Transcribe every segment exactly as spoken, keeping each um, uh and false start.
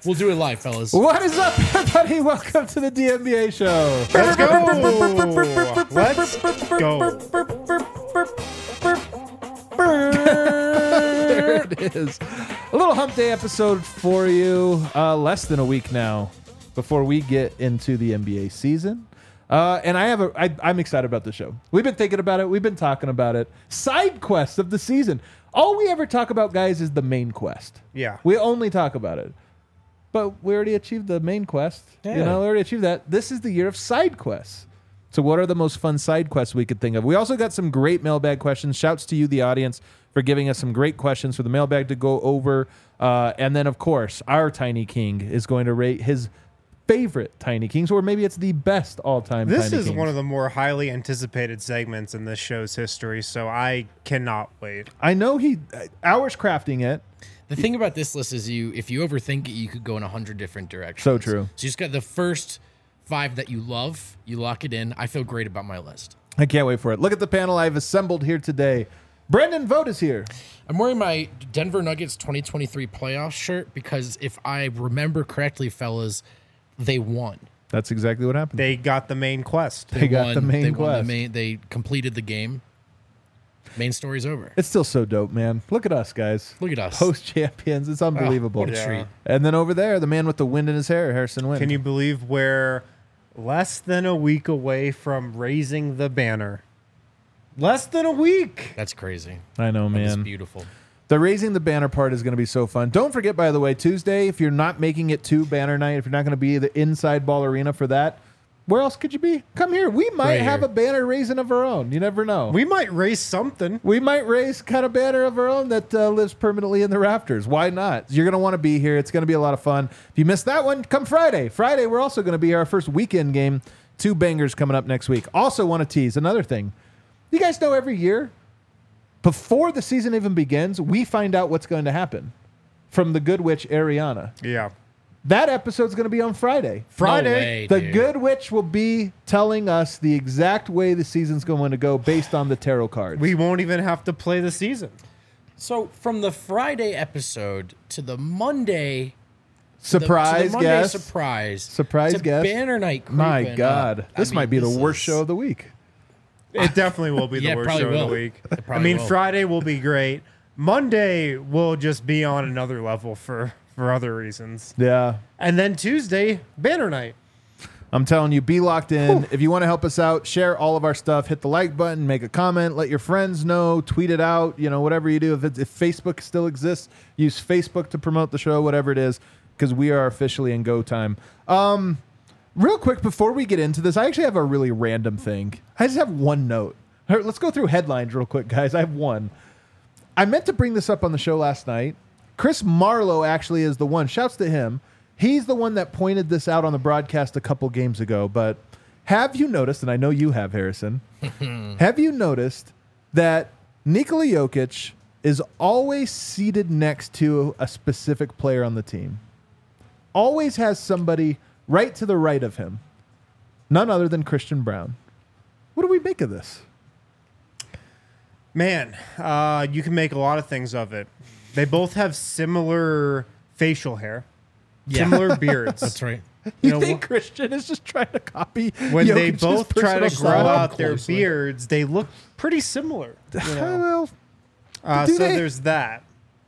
We'll do it live, fellas. What is up, everybody? Welcome to the D N B A show. Let's go. Let's go. There it is. A little hump day episode for you. Uh, less than a week now before we get into the N B A season. Uh, and I have a, I, I'm excited about the show. We've been thinking about it. We've been talking about it. Side quests of the season. All we ever talk about, guys, is the main quest. Yeah. We only talk about it. But we already achieved the main quest. Yeah. You know, we already achieved that. This is the year of side quests. So what are the most fun side quests we could think of? We also got some great mailbag questions. Shouts to you, the audience, for giving us some great questions for the mailbag to go over. Uh, and then, of course, our Tiny King is going to rate his favorite Tiny Kings, or maybe it's the best all-time This Tiny is Kings. one of the more highly anticipated segments in this show's history, so I cannot wait. I know he hours crafting it. The thing about this list is you, if you overthink it, you could go in a hundred different directions. So true. So you just got the first five that you love, you lock it in. I feel great about my list. I can't wait for it. Look at the panel I've assembled here today. Brendan Vogt is here. I'm wearing my Denver Nuggets twenty twenty-three playoff shirt because if I remember correctly, fellas, they won. That's exactly what happened. They got the main quest. They got won, the main they won quest. the main, they completed the game. Main story's over. It's still so dope, man. Look at us, guys. Look at us. Post champions. It's unbelievable. what a Yeah. treat. And then over there, the man with the wind in his hair, Harrison Wind. Can you believe we're less than a week away from raising the banner? Less than a week. That's crazy. I know, That's man. beautiful. The raising the banner part is going to be so fun. Don't forget, by the way, Tuesday, if you're not making it to banner night, if you're not going to be the inside ball arena for that, where else could you be? Come here. We might Right have here. a banner raising of our own. You never know. We might raise something. We might raise kind of banner of our own that uh, lives permanently in the rafters. Why not? You're going to want to be here. It's going to be a lot of fun. If you missed that one, come Friday. Friday, we're also going to be our first weekend game. Two bangers coming up next week. Also want to tease another thing. You guys know every year, before the season even begins, we find out what's going to happen from the Good Witch, Ariana. Yeah. That episode's going to be on Friday. Friday. No way, The dude. Good Witch will be telling us the exact way the season's going to go based on the tarot cards. We won't even have to play the season. So from the Friday episode to the Monday to the- surprise to the Monday guest. surprise Surprise to guest. Banner night. My creeping God. up. I This mean, might be the this worst is- show of the week. It definitely will be the Yeah, worst probably show will. of the week. It I probably mean, will. Friday will be great. Monday will just be on another level for, for other reasons. Yeah. And then Tuesday, banner night. I'm telling you, be locked in. If you want to help us out, share all of our stuff. Hit the like button, make a comment, let your friends know, tweet it out, you know, whatever you do. If, it's, if Facebook still exists, use Facebook to promote the show, whatever it is, because we are officially in go time. Um, real quick, before we get into this, I actually have a really random thing. I just have one note. All right, let's go through headlines real quick, guys. I have one. I meant to bring this up on the show last night. Chris Marlowe actually is the one. Shouts to him. He's the one that pointed this out on the broadcast a couple games ago. But have you noticed, and I know you have, Harrison, have you noticed that Nikola Jokic is always seated next to a specific player on the team? Always has somebody right to the right of him. None other than Christian Brown. What do we make of this? Man, uh, you can make a lot of things of it. They both have similar facial hair, similar beards. That's right. You, You know, think Christian is just trying to copy When they Jokic's both try to personal grow style? out their Closely. beards, they look pretty similar. You know? Well, Uh, do so they? there's that.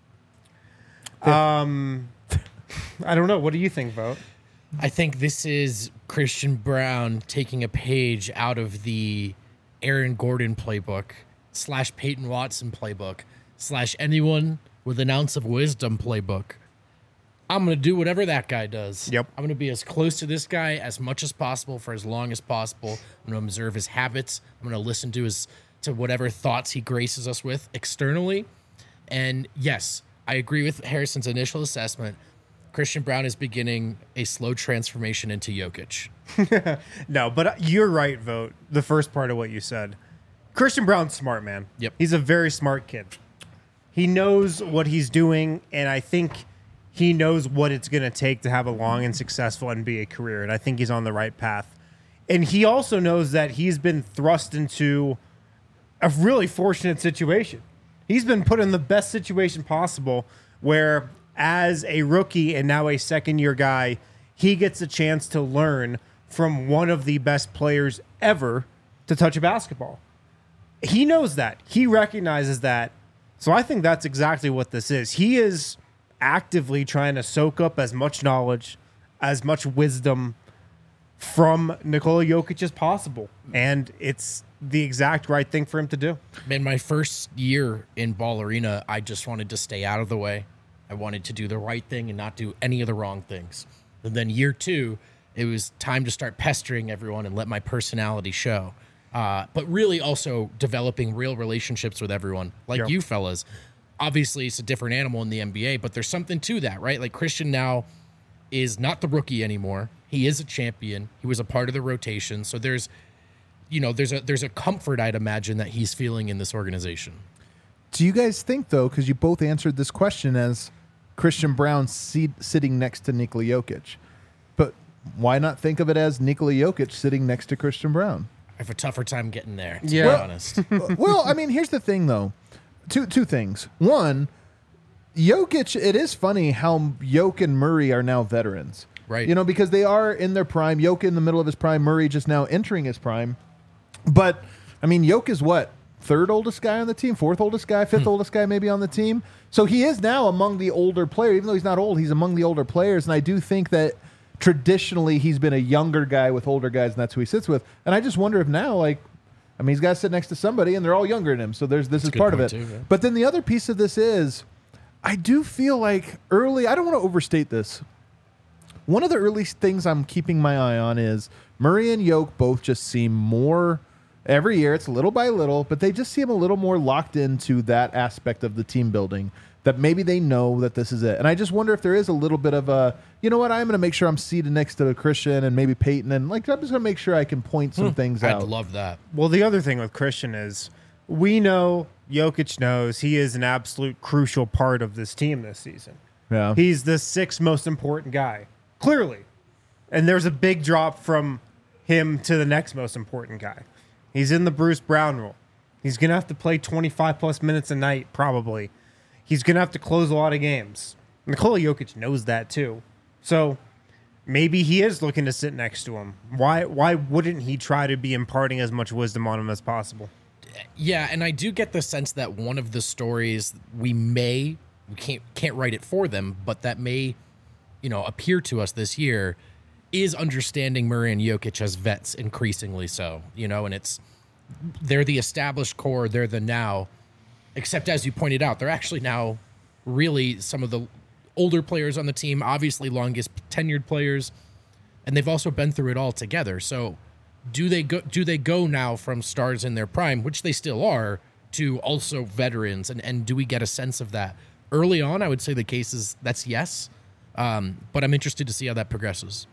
Um, I don't know. What do you think, Vote? I think this is Christian Brown taking a page out of the Aaron Gordon playbook slash Peyton Watson playbook slash anyone with an ounce of wisdom playbook. I'm going to do whatever that guy does. Yep. I'm going to be as close to this guy as much as possible for as long as possible. I'm going to observe his habits. I'm going to listen to his to whatever thoughts he graces us with externally. And yes, I agree with Harrison's initial assessment. Christian Brown is beginning a slow transformation into Jokic. No, but you're right, Vote. The first part of what you said. Christian Brown's smart, man. Yep. He's a very smart kid. He knows what he's doing, and I think he knows what it's going to take to have a long and successful N B A career, and I think he's on the right path. And he also knows that he's been thrust into a really fortunate situation. He's been put in the best situation possible where as a rookie and now a second-year guy, he gets a chance to learn from one of the best players ever to touch a basketball. He knows that. He recognizes that. So I think that's exactly what this is. He is actively trying to soak up as much knowledge, as much wisdom from Nikola Jokic as possible. And it's the exact right thing for him to do. Man, my first year in Ball Arena, I just wanted to stay out of the way. I wanted to do the right thing and not do any of the wrong things. And then year two, it was time to start pestering everyone and let my personality show. Uh, but really also developing real relationships with everyone, like Yep. you fellas. Obviously, it's a different animal in the N B A, but there's something to that, right? Like Christian now is not the rookie anymore. He is a champion. He was a part of the rotation. So there's, you know, there's a there's a comfort, I'd imagine, that he's feeling in this organization. Do you guys think, though, because you both answered this question as Christian Braun seat, sitting next to Nikola Jokic, but why not think of it as Nikola Jokic sitting next to Christian Braun? I have a tougher time getting there, to Yeah. be Well- honest. Well, I mean, here's the thing, though. Two two things. One, Jokic, it is funny how Jokic and Murray are now veterans. Right. You know, because they are in their prime. Jokic in the middle of his prime. Murray just now entering his prime. But, I mean, Jokic is what? Third oldest guy on the team? Fourth oldest guy? Fifth oldest guy maybe on the team? So he is now among the older players. Even though he's not old, he's among the older players. And I do think that traditionally he's been a younger guy with older guys, and that's who he sits with. And I just wonder if now, like, I mean, he's got to sit next to somebody, and they're all younger than him. So there's this That's a is good part of it. point, too, yeah. But then the other piece of this is, I do feel like early, I don't want to overstate this. One of the early things I'm keeping my eye on is Murray and Yoke both just seem more, every year it's little by little, but they just seem a little more locked into that aspect of the team building, that maybe they know that this is it. And I just wonder if there is a little bit of a, you know what, I'm going to make sure I'm seated next to Christian and maybe Peyton, and like I'm just going to make sure I can point some things I'd out. love that. Well, the other thing with Christian is we know, Jokic knows, he is an absolute crucial part of this team this season. Yeah. He's the sixth most important guy, clearly. And there's a big drop from him to the next most important guy. He's in the Bruce Brown rule. He's going to have to play twenty-five plus minutes a night, probably. He's going to have to close a lot of games. Nikola Jokic knows that too. So maybe he is looking to sit next to him. Why why wouldn't he try to be imparting as much wisdom on him as possible? Yeah, and I do get the sense that one of the stories we may we can't can't write it for them, but that may, you know, appear to us this year is understanding Murray and Jokic as vets increasingly so, you know, and it's they're the established core, they're the now, except as you pointed out, they're actually now really some of the older players on the team, obviously longest tenured players, and they've also been through it all together. So do they go do they go now from stars in their prime, which they still are, to also veterans, and, and do we get a sense of that? Early on, I would say the case is that's yes, um, but I'm interested to see how that progresses.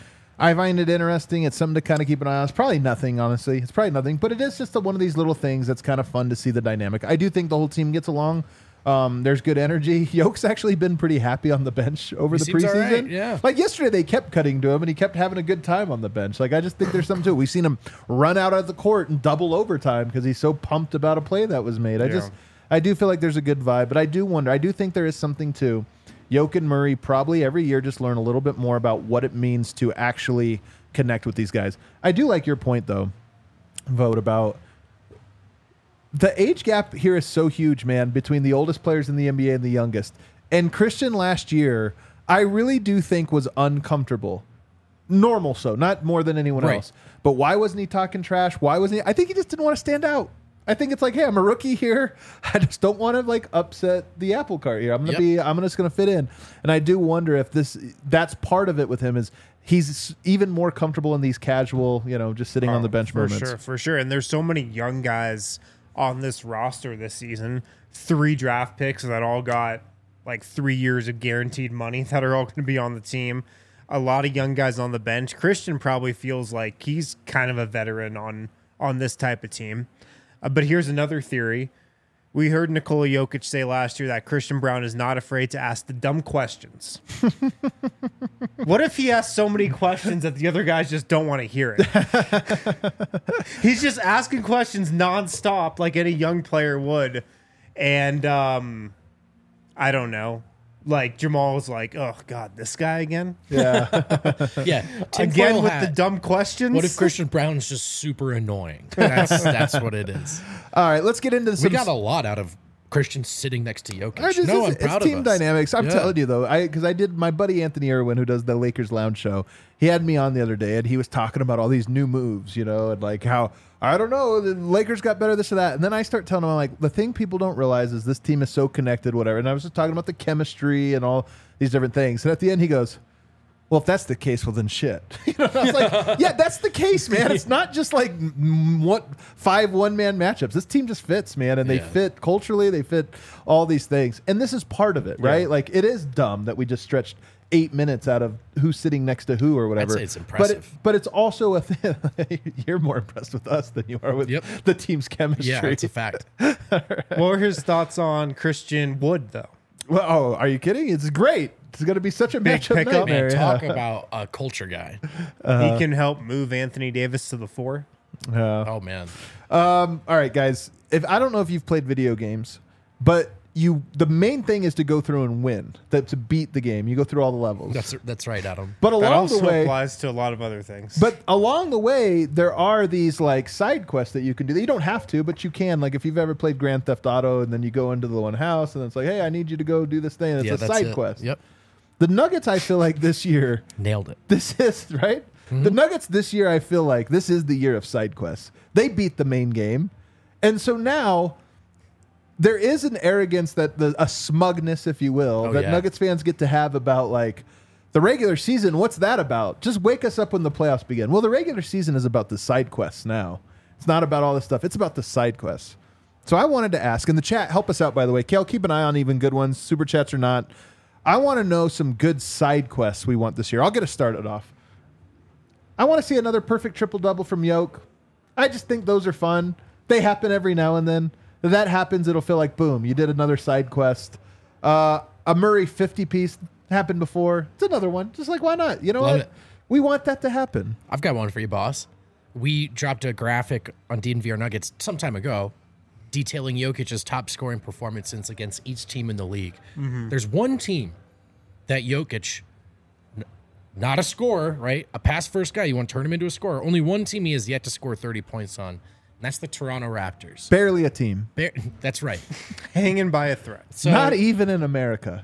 I find it interesting. It's something to kind of keep an eye on. It's probably nothing, honestly. It's probably nothing, but it is just a, one of these little things that's kind of fun to see the dynamic. I do think the whole team gets along. Um, there's good energy. Yoke's actually been pretty happy on the bench over He the seems all preseason. right, yeah. Like yesterday, they kept cutting to him, and he kept having a good time on the bench. Like I just think there's something to it. We've seen him run out of the court and double overtime because he's so pumped about a play that was made. I Yeah. just, I do feel like there's a good vibe, but I do wonder. I do think there is something to Yoke and Murray probably every year just learn a little bit more about what it means to actually connect with these guys. I do like your point though, Vote, about the age gap here is so huge, man, between the oldest players in the N B A and the youngest. And Christian last year, I really do think was uncomfortable. Normal so, not more than anyone Right. else. But why wasn't he talking trash? Why wasn't he? I think he just didn't want to stand out. I think it's like, hey, I'm a rookie here. I just don't want to like upset the apple cart here. I'm gonna Yep. be. I'm just gonna fit in. And I do wonder if this. That's part of it with him is he's even more comfortable in these casual, you know, just sitting on the bench for moments. sure, for sure. And there's so many young guys on this roster this season. Three draft picks that all got like three years of guaranteed money that are all going to be on the team. A lot of young guys on the bench. Christian probably feels like he's kind of a veteran on on this type of team. Uh, but here's another theory. We heard Nikola Jokic say last year that Christian Braun is not afraid to ask the dumb questions. What if he asks so many questions that the other guys just don't want to hear it? He's just asking questions nonstop like any young player would. And um, I don't know. like Jamal was like, "Oh God, this guy again, Yeah. Yeah, again tinfoil with hat. the dumb questions." What if Christian Brown's just super annoying? That's that's what it is. All right, let's get into We some. got a lot out of Christian sitting next to Jokic. I just- no, it's, I'm proud it's team of us. dynamics. I'm Yeah. telling you though, I because I did my buddy Anthony Irwin, who does the Lakers Lounge show. He had me on the other day, and he was talking about all these new moves, you know, and like how I don't know, the Lakers got better, this or that. And then I start telling him, I'm like, the thing people don't realize is this team is so connected, whatever. And I was just talking about the chemistry and all these different things. And at the end, he goes, well, if that's the case, well, then shit. You know, I was like, yeah, that's the case, man. It's not just like mm, what five one-man matchups. This team just fits, man, and they Yeah. fit culturally. They fit all these things. And this is part of it, right? Like, it is dumb that we just stretched eight minutes out of who's sitting next to who or whatever. say it's But, it, impressive. but it's also a thing. You're more impressed with us than you are with Yep. the team's chemistry. Yeah, it's a fact. What were his thoughts on Christian Wood, though? Well, oh, are you kidding? It's great. It's going to be such a matchup pick up, nightmare. Man, yeah. talk about a culture guy. he can help move Anthony Davis to the four. Yeah. Oh man, Um, all right, guys. If I don't know if you've played video games, but you the main thing is to go through and win. That to beat the game, you go through all the levels. that's that's right, Adam. but That along also the way, applies to a lot of other things. but along the way, there are these like side quests that you can do. You don't have to, but you can. Like if you've ever played Grand Theft Auto, and then you go into the one house, and it's like, hey, I need you to go do this thing. And it's Yeah, a that's side it. quest. Yep, The Nuggets, I feel like this year. nailed it. This is right. The Nuggets this year, I feel like this is the year of side quests. They beat the main game, and so now there is an arrogance that the a smugness, if you will, Oh, that yeah. Nuggets fans get to have about like the regular season. What's that about? Just wake us up when the playoffs begin. Well, the regular season is about the side quests now. It's not about all this stuff. It's about the side quests. So I wanted to ask in the chat. Help us out, by the way. Kale, keep an eye on even good ones, super chats or not. I want to know some good side quests we want this year. I'll get us started off. I want to see another perfect triple double from Yoke. I just think those are fun. They happen every now and then. If that happens, it'll feel like boom, you did another side quest. Uh, a Murray fifty piece happened before. It's another one. Just like why not? You know Love what? it. We want that to happen. I've got one for you, boss. We dropped a graphic on D N V R Nuggets some time ago detailing Jokic's top scoring performances against each team in the league. There's one team that Jokic, n- not a scorer, right? A pass first guy, you want to turn him into a scorer. Only one team he has yet to score thirty points on, and that's the Toronto Raptors. Barely a team. Bear- that's right. Hanging by a thread. So, Not even in America.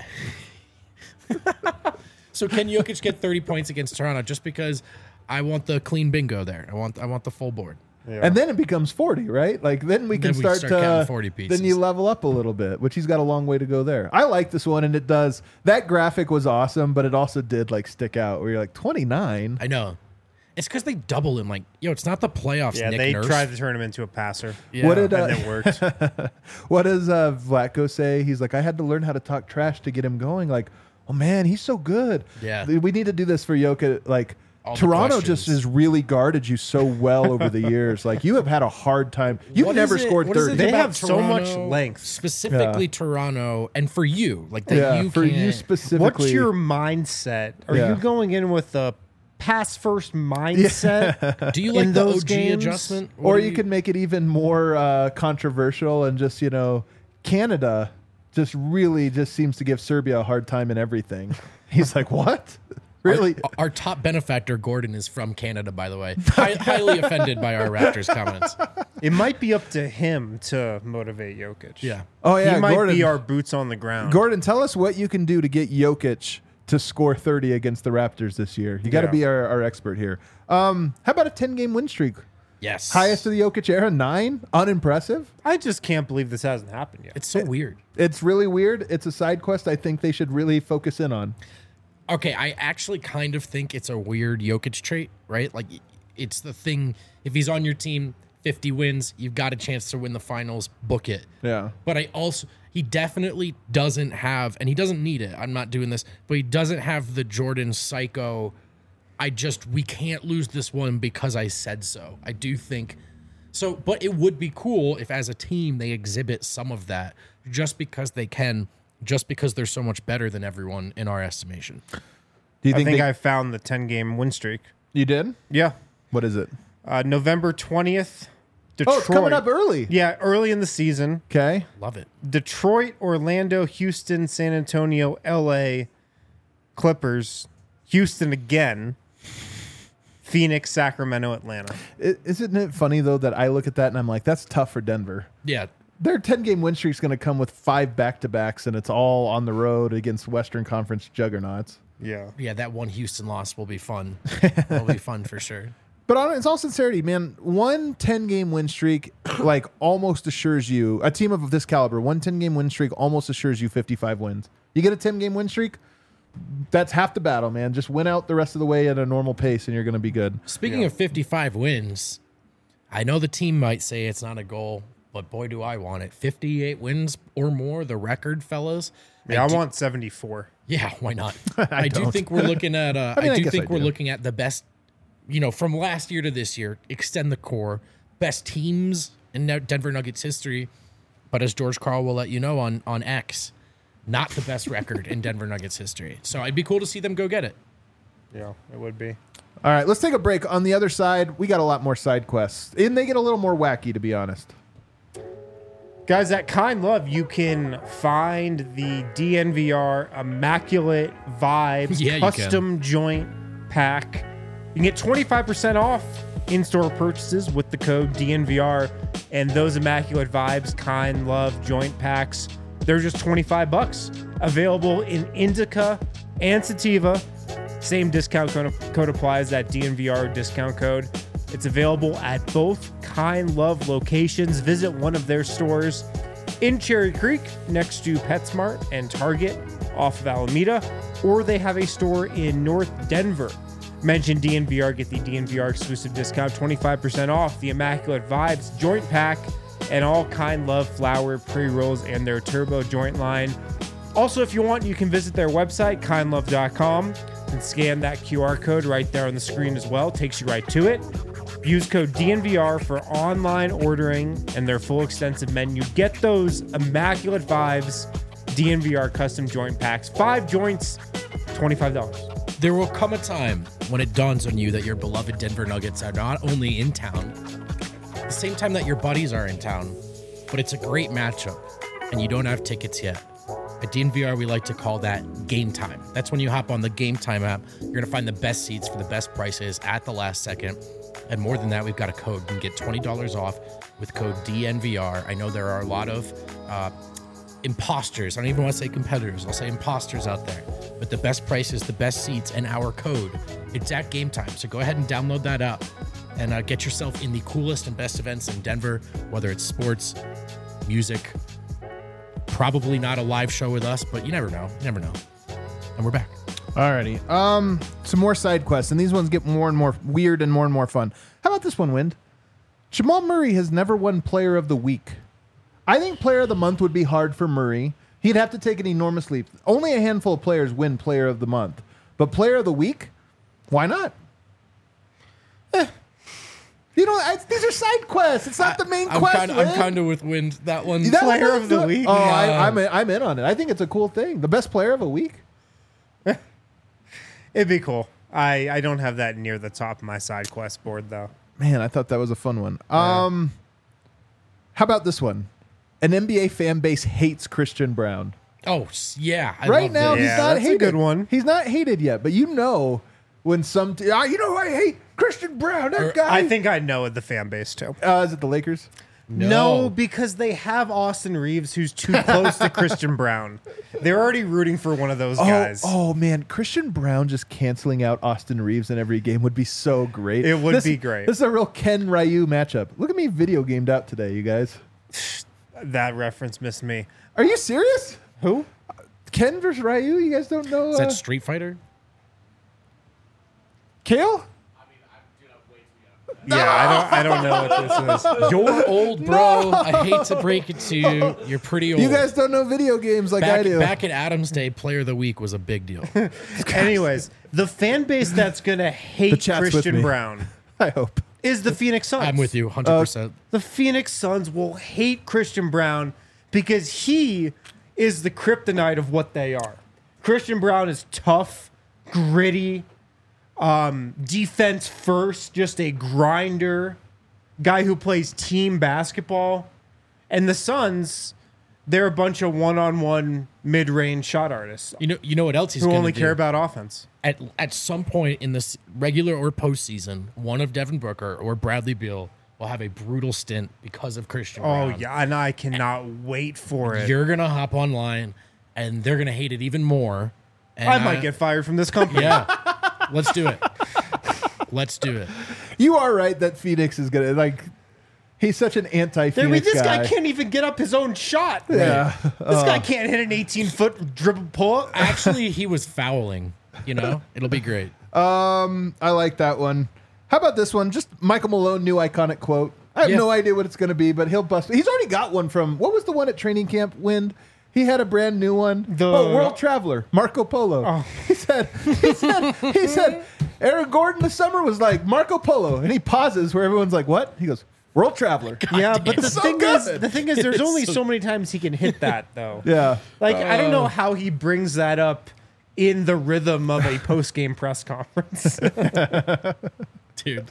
so can Jokic get thirty points against Toronto just because I want the clean bingo there? I want I want the full board. And then it becomes forty, right? Like then we can Then we start, start to counting forty pieces. Then you level up a little bit, which he's got a long way to go there. I like this one, and it does. That graphic was awesome, but it also did like stick out. Where you're like twenty-nine. I know. It's because they double him. Like, yo, it's not the playoffs. Yeah, Nick they Nurse. tried to turn him into a passer. Yeah. What did uh, And it worked. what does uh, Vlatko say? He's like, I had to learn how to talk trash to get him going. Like, oh man, he's so good. Yeah. we need to do this for Jokic. Like. All the Toronto just questions. has really guarded you so well over the years. Like you have had a hard time. You've What never is it- scored what is it thirty. They about have so much Toronto, length. specifically Yeah. Toronto, and for you, like that Yeah, you for can't, you specifically. What's your mindset? Are Yeah. you going in with a pass first mindset? Do you in like the those O G games? adjustment, What Or do you could make it even more uh, controversial and just, you know, Canada just really just seems to give Serbia a hard time in everything. He's like, what? Really? Our, our top benefactor Gordon is from Canada, by the way. Hi, highly offended by our Raptors comments. It might be up to him to motivate Jokic. Yeah. Oh, yeah. he might Gordon, be our boots on the ground. Gordon, tell us what you can do to get Jokic to score thirty against the Raptors this year. You got to Yeah. be our, our expert here. Um, how about a ten-game win streak? Yes. Highest of the Jokic era, nine? Unimpressive? I just can't believe this hasn't happened yet. It's so weird. It's really weird. It's a side quest I think they should really focus in on. Okay, I actually kind of think it's a weird Jokic trait, right? Like, it's the thing. If he's on your team, fifty wins, you've got a chance to win the finals. Book it. Yeah. But I also, he definitely doesn't have, and he doesn't need it. I'm not doing this, but he doesn't have the Jordan psycho. I just, we can't lose this one because I said so. I do think so, but it would be cool if as a team they exhibit some of that just because they can, just because they're so much better than everyone in our estimation. Do you I think, think they- I found the ten game win streak. you did? Yeah. What is it? Uh, November twentieth, Detroit. Oh, it's coming up early. Yeah, early in the season. Okay. Love it. Detroit, Orlando, Houston, San Antonio, L A, Clippers, Houston again, Phoenix, Sacramento, Atlanta. I- Isn't it funny, though, that I look at that and I'm like, that's tough for Denver. Yeah. Their ten-game win streak is going to come with five back-to-backs, and it's all on the road against Western Conference juggernauts. Yeah. Yeah, that one Houston loss will be fun. It'll be fun for sure. But on it's all sincerity, man, one ten-game win streak like almost assures you, a team of this caliber, one ten-game win streak almost assures you fifty-five wins. You get a ten-game win streak, that's half the battle, man. Just win out the rest of the way at a normal pace, and you're going to be good. Speaking Yeah. of fifty-five wins, I know the team might say it's not a goal, but boy, do I want it. fifty-eight wins or more, the record, fellas. Yeah, I, do- want seventy-four. Yeah, why not? I, do don't. think we're looking at. Uh, I mean, I I do guess think I we're do. looking at the best. You know, from last year to this year, extend the core, best teams in Nu- Denver Nuggets history. But as George Karl will let you know on on X, not the best record in Denver Nuggets history. So it'd be cool to see them go get it. Yeah, it would be. All right, let's take a break. On the other side, we got a lot more side quests, and they get a little more wacky, to be honest. Guys, at Kind Love, you can find the D N V R Immaculate Vibes Yeah, you can. custom joint pack. You can get twenty-five percent off in-store purchases with the code D N V R, and those Immaculate Vibes Kind Love joint packs, they're just twenty-five bucks. Available in indica and sativa. Same discount code, code applies, that D N V R discount code. It's available at both Kind Love locations. Visit one of their stores in Cherry Creek next to PetSmart and Target off of Alameda, or they have a store in North Denver. Mention D N V R, get the D N V R exclusive discount, twenty-five percent off the Immaculate Vibes joint pack and all Kind Love flower pre-rolls and their turbo joint line. Also, if you want, you can visit their website, kind love dot com, and scan that Q R code right there on the screen as well. Takes you right to it. Use code D N V R for online ordering and their full extensive menu. Get those Immaculate Vibes D N V R custom joint packs. Five joints, twenty-five dollars. There will come a time when it dawns on you that your beloved Denver Nuggets are not only in town, at the same time that your buddies are in town, but it's a great matchup and you don't have tickets yet. At D N V R, we like to call that game time. That's when you hop on the Game Time app. You're going to find the best seats for the best prices at the last second. And more than that, we've got a code. You can get twenty dollars off with code D N V R. I know there are a lot of uh, imposters. I don't even want to say competitors. I'll say imposters out there. But the best prices, the best seats, and our code, it's at Game Time. So go ahead and download that app and uh, get yourself in the coolest and best events in Denver, whether it's sports, music, probably not a live show with us, but you never know. You never know. And we're back. Alrighty. Um, some more side quests, and these ones get more and more weird and more and more fun. How about this one, Wind? Jamal Murray has never won Player of the Week. I think Player of the Month would be hard for Murray. He'd have to take an enormous leap. Only a handful of players win Player of the Month. But Player of the Week? Why not? Eh. You know, I, these are side quests. It's not the main I'm quest. kind of, I'm Wind. kind of with Wind. That one. That Player one's of the good. Week? Oh, I, Yeah. I'm, in, I'm in on it. I think it's a cool thing. The best player of a week? It'd be cool. I, I don't have that near the top of my side quest board, though. Man, I thought that was a fun one. Um, how about this one? An N B A fan base hates Christian Brown. Oh, s- yeah. I right love now, this. he's Yeah, not that's a hated. good one. He's not hated yet, but you know when some, t- ah, you know, I hate Christian Brown. That Or- guy. I think I know the fan base, too. Uh, is it the Lakers? No. because they have Austin Reeves, who's too close to Christian Brown. They're already rooting for one of those Oh, guys. oh man, Christian Brown just canceling out Austin Reeves in every game would be so great. It would This- be great. This is a real Ken Ryu matchup. Look at me video gamed out today, you guys. That reference missed me. Are you serious? Who? Ken versus Ryu? You guys don't know? Is Uh, that Street Fighter? Kale? Yeah, I don't. I don't know what this is. You're old, bro. I hate to break it to you. You're pretty old. You guys don't know video games like I back, do. back in Adam's day, Player of the Week was a big deal. Anyways, the fan base that's gonna The hate chat's with Christian me. Brown I hope. is the Phoenix Suns. I'm with you, one hundred percent. The Phoenix Suns will hate Christian Brown because he is the kryptonite of what they are. Christian Brown is tough, gritty, um, defense first, just a grinder. guy who plays team basketball. And the Suns, they're a bunch of one-on-one mid-range shot artists You know, you know what else he's who going only to care do? about offense. At at some point in this regular or postseason, one of Devin Booker or Bradley Beal will have a brutal stint because of Christian Oh, Brown. yeah, and I cannot wait for it. You're gonna hop online, and they're gonna hate it even more. And I might get fired from this company. Yeah, let's do it. Let's do it. You are right that Phoenix is gonna like. He's such an I anti-Phoenix mean, this guy. guy can't even get up his own shot. Yeah. This guy can't hit an eighteen-foot dribble pull. Actually, he was fouling. You know, it'll be great. Um, I like that one. How about this one? Just Michael Malone, new iconic quote. I have Yeah. no idea what it's going to be, but he'll bust. He's already got one from what was the one at training camp? Wind. He had a brand new one. The- oh, World Traveler, Marco Polo. Oh. He said, he said, he said, Aaron Gordon this summer was like Marco Polo, and he pauses where everyone's like, "What?" He goes, "World Traveler." Yeah, but the It's so thing good. is, the thing is, there's It's only so- so many times he can hit that, though. Yeah. Like, I don't know how he brings that up in the rhythm of a post-game press conference. Dude.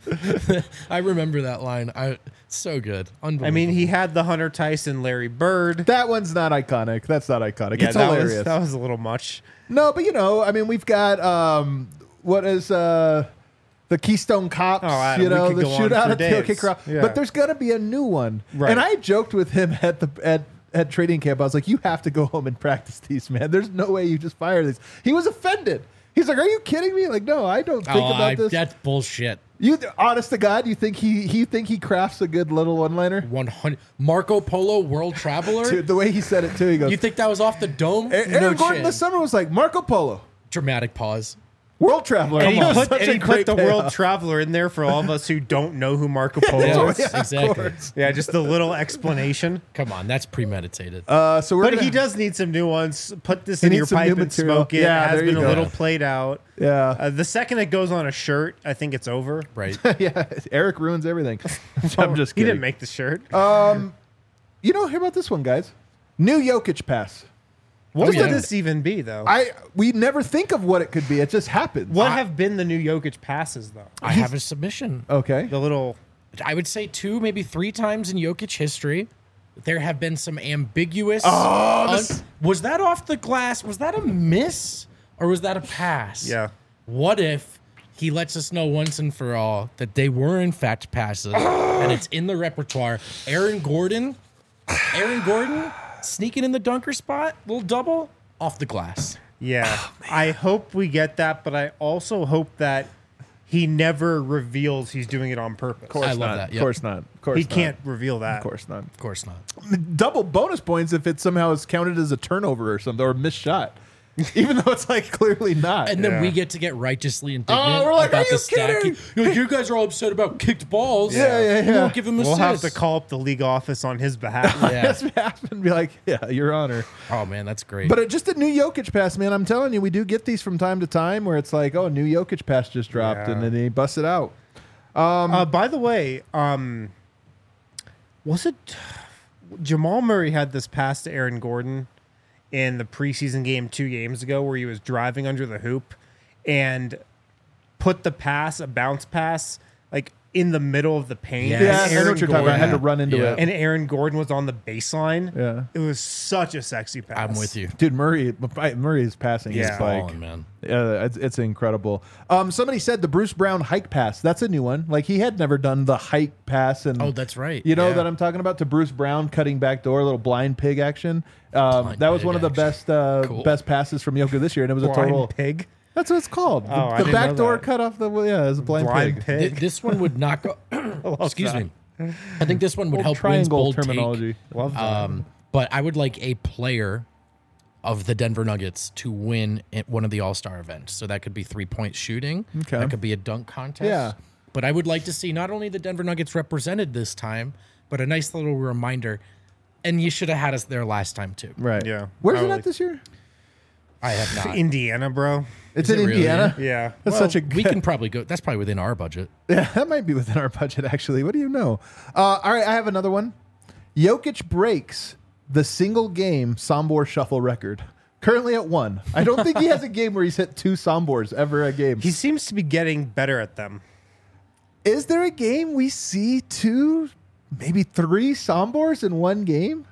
I remember that line. I so good. Unbelievable. I mean, he had the Hunter Tyson, Larry Bird. That one's not iconic. That's not iconic. Yeah, it's that hilarious. was that was a little much. No, but you know, I mean, we've got um, what is uh, the Keystone Cops? Oh, Adam, you we know, could the go on shootout for at the OK days. Corral. Yeah. But there's gonna be a new one, Right. and I joked with him at the at at training camp. I was like, "You have to go home and practice these, man. There's no way you just fire these." He was offended. He's like, "Are you kidding me?" Like, no, I don't think oh, about I, this. that's bullshit. You, honest to God, you think he he think he crafts a good little one-liner? one hundred Marco Polo World Traveler? Dude, the way he said it too, he goes, You think that was off the dome? "A- Aaron no Gordon shit. this summer was like Marco Polo, Dramatic pause. World Traveler." And he It was put, such and a he great put the World payoff. Traveler in there for all of us who don't know who Marco Polo Yes, is. Yeah, of exactly. course. Yeah, just a little explanation. Come on, that's premeditated. Uh, so we're But gonna, he does need some new ones. Put this He in needs your some pipe new and material. smoke it. Yeah, it has there you been a go. little played out. Yeah. Uh, the second it goes on a shirt, I think it's over. right. yeah, Eric ruins everything. I'm just He kidding. didn't make the shirt. You know, hear about this one, guys. New Jokic pass. what yeah. would this even be, though? I we never think of what it could be. It just happens. what have been the new Jokic passes, though? I have a submission. Okay. The little. I would say two, maybe three times in Jokic history. There have been some ambiguous. Oh, un- this- was that off the glass? Was that a miss or was that a pass? Yeah. What if he lets us know once and for all that they were in fact passes and it's in the repertoire? Aaron Gordon, Aaron Gordon sneaking in the dunker spot, little double off the glass. Yeah. I hope we get that, but I also hope that he never reveals he's doing it on purpose. Of course I love not. that, Of yep. course not. Of course He not. can't reveal that. Of course not. Of course not. Double bonus points if it somehow is counted as a turnover or something or a missed shot, even though it's like clearly not. And then Yeah. we get to get righteously indignant Oh, we're like, about "Are you the stat. kidding?" You're like, you guys are all upset about kicked balls. Yeah, yeah, You yeah. won't give him We'll assists. have to call up the league office on his behalf. Yeah. That's what happened. And be like, yeah, Your Honor. Oh man, that's great. But it, just a new Jokic pass, man. I'm telling you, we do get these from time to time where it's like, oh, a new Jokic pass just dropped, Yeah. and then he busts it out. Uh, by the way, um, was it Jamal Murray had this pass to Aaron Gordon in the preseason game two games ago where he was driving under the hoop and put the pass, a bounce pass, like in the middle of the paint. Yes. Yeah, Yeah, I know what you're talking about. I had to Gordon. run into Yeah. it. And Aaron Gordon was on the baseline. Yeah. It was such a sexy pass. I'm with you. Dude, Murray, Murray's passing Yeah. is like, Ballin', man. uh, it's, it's incredible. Um, somebody said the Bruce Brown hike pass. That's a new one. Like he had never done the hike pass, and Oh, that's right. You know Yeah. that I'm talking about, to Bruce Brown cutting back door, little blind pig action. Um, Blind that was pig one of the action. best uh, Cool. best passes from Jokic this year, and it was a Blind total. pig. That's what it's called. Oh, I the the didn't back know door that. cut off the yeah, it was a blind, Blind pig. pig. Th- this one would not go. Excuse that. me. I think this one would Old help Wynn's triangle bold terminology. take. Love that. Um, but I would like a player of the Denver Nuggets to win at one of the All Star events. So that could be three point shooting. Okay. That could be a dunk contest. Yeah. But I would like to see not only the Denver Nuggets represented this time, but a nice little reminder. And you should have had us there last time too. Right. Yeah. Where's it Probably. at this year? I have not. Indiana, bro. It's Is in it really? Indiana. Yeah. That's Well, such a we good, can probably go. That's probably within our budget. yeah, that might be within our budget actually. What do you know? Uh, all right, I have another one. Jokic breaks the single game Sombor shuffle record. Currently at one. I don't think he has a game where he's hit two Sombors ever a game. He seems to be getting better at them. Is there a game we see two, maybe three Sombors in one game?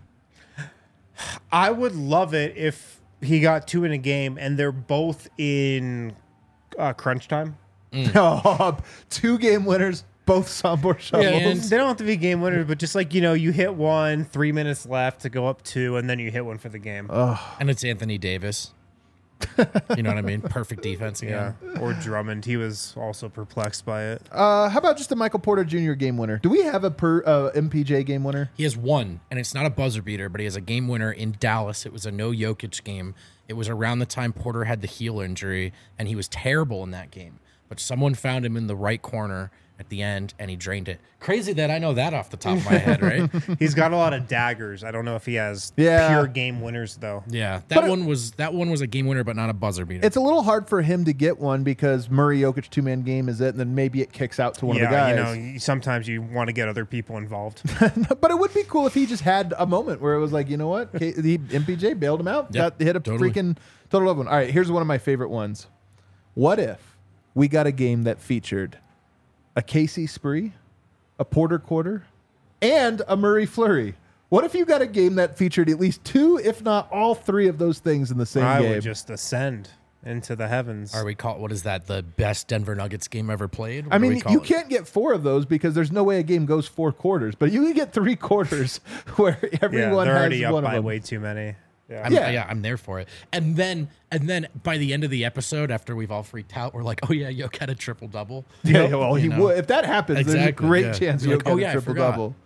I would love it if he got two in a game and they're both in uh, crunch time. Oh, two game winners, both Sombor shovels. Yeah, and- They don't have to be game winners, but just like, you know, you hit one, three minutes left to go up two, and then you hit one for the game. And it's Anthony Davis. You know what I mean? Perfect defense yeah. again. Or Drummond. He was also perplexed by it. Uh, how about just a Michael Porter Junior game winner? Do we have a per uh, M P J game winner? He has one, and it's not a buzzer beater, but he has a game winner in Dallas. It was a no Jokic game. It was around the time Porter had the heel injury, and he was terrible in that game. But someone found him in the right corner at the end, and he drained it. Crazy that I know that off the top of my head, right? He's got a lot of daggers. I don't know if he has Yeah. pure game winners, though. Yeah, that But it- one was that one was a game winner, but not a buzzer beater. It's a little hard for him to get one because Murray Jokic two man game is it, and then maybe it kicks out to one yeah, of the guys. you know, you- sometimes you want to get other people involved. But it would be cool if he just had a moment where it was like, you know what, K- the M P J bailed him out, Yep, got hit a totally. freaking total love one. All right, here's one of my favorite ones. What if we got a game that featured a Casey Spree, a Porter Quarter, and a Murray Flurry? What if you got a game that featured at least two, if not all three of those things in the same I game? would just ascend into the heavens. Are we call what is that? The best Denver Nuggets game ever played? What I do we mean, call you it? can't get four of those because there's no way a game goes four quarters, but you can get three quarters where yeah, everyone they're has already up one of by them. way too many. Yeah. I'm, Yeah. yeah. I'm there for it. And then, and then by the end of the episode, after we've all freaked out, we're like, "Oh yeah, Yoke had a triple double." Yeah, well, he You know? would. If that happens, there's a Exactly, great yeah. chance You're you'll like, get "Oh, a yeah, I triple forgot." double.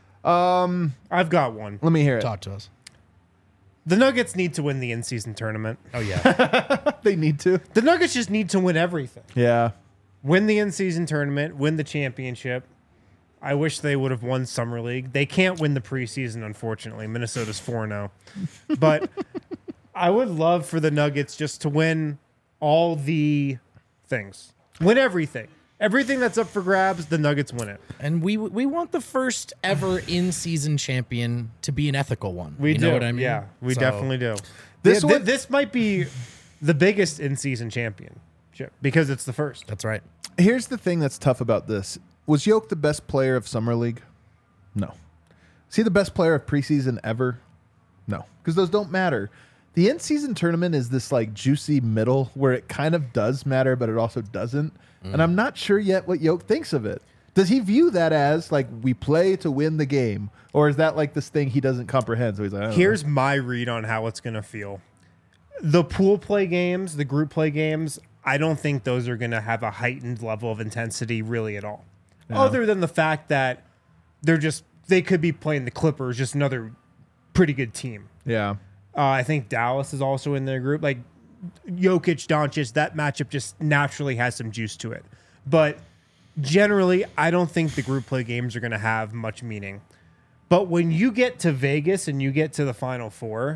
I've got one. Let me hear it. Talk to us. The Nuggets need to win the in-season tournament. Oh yeah, They need to. The Nuggets just need to win everything. Yeah. Win the in-season tournament, win the championship. I wish they would have won Summer League. They can't win the preseason, unfortunately. Minnesota's four and oh. But I would love for the Nuggets just to win all the things. Win everything. Everything that's up for grabs, the Nuggets win it. and we we want the first ever in-season champion to be an ethical one. We you do. know what I mean? Yeah, we So, definitely do. This This, one- this might be the biggest in-season championship because it's the first. That's right. Here's the thing that's tough about this. Was Yoke the best player of Summer League? No. Is he the best player of preseason ever? No. Because those don't matter. The in-season tournament is this like juicy middle where it kind of does matter, but it also doesn't. And I'm not sure yet what Yoke thinks of it. Does he view that as like we play to win the game? Or is that like this thing he doesn't comprehend? So he's like, I don't know. Here's my read on how it's going to feel. The pool play games, the group play games, I don't think those are going to have a heightened level of intensity really at all. Other than the fact that they're just, they could be playing the Clippers, just another pretty good team. Yeah. Uh, I think Dallas is also in their group. Like Jokic, Doncic, that matchup just naturally has some juice to it. But generally, I don't think the group play games are going to have much meaning. But when you get to Vegas and you get to the Final Four,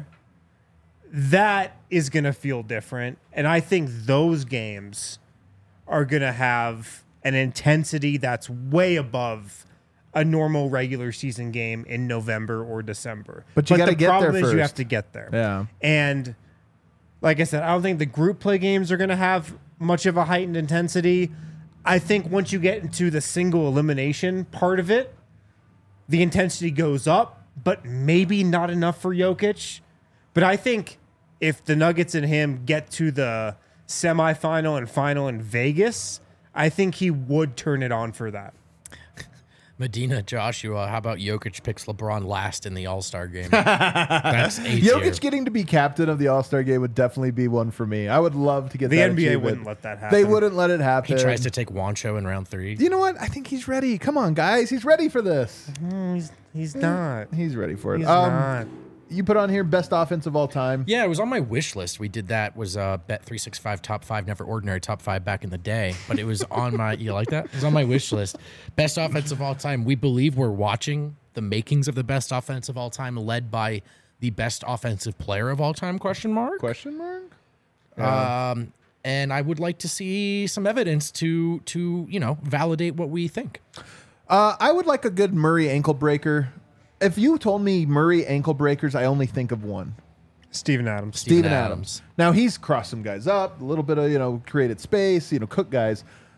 that is going to feel different. And I think those games are going to have an intensity that's way above a normal regular season game in November or December. But you gotta the get there problem is you have first. to get there. Yeah. And like I said, I don't think the group play games are going to have much of a heightened intensity. I think once you get into the single elimination part of it, the intensity goes up, but maybe not enough for Jokic. But I think if the Nuggets and him get to the semifinal and final in Vegas, I think he would turn it on for that. Medina Joshua, how about Jokic picks LeBron last in the All-Star game? That's A tier. Jokic getting to be captain of the All-Star game would definitely be one for me. I would love to get The that N B A achievement. wouldn't let that happen. They wouldn't let it happen. He tries to take Wancho in round three. You know what? I think he's ready. Come on, guys. He's ready for this. Mm, he's, he's not. He's ready for it. He's Um, not. You put on here best offense of all time. Yeah, it was on my wish list. We did that. Was uh, Bet three sixty-five top five, never ordinary top five back in the day. But it was on my. You like that? It was on my wish list. Best offense of all time. We believe we're watching the makings of the best offense of all time, led by the best offensive player of all time? Question mark. Question mark? Um, and I would like to see some evidence to to you know validate what we think. Uh, I would like a good Murray ankle breaker. If you told me Murray ankle breakers, I only think of one. Steven Adams. Steven Steven Adams. Adams. Now he's crossed some guys up, a little bit of, you know, created space, you know, cook guys.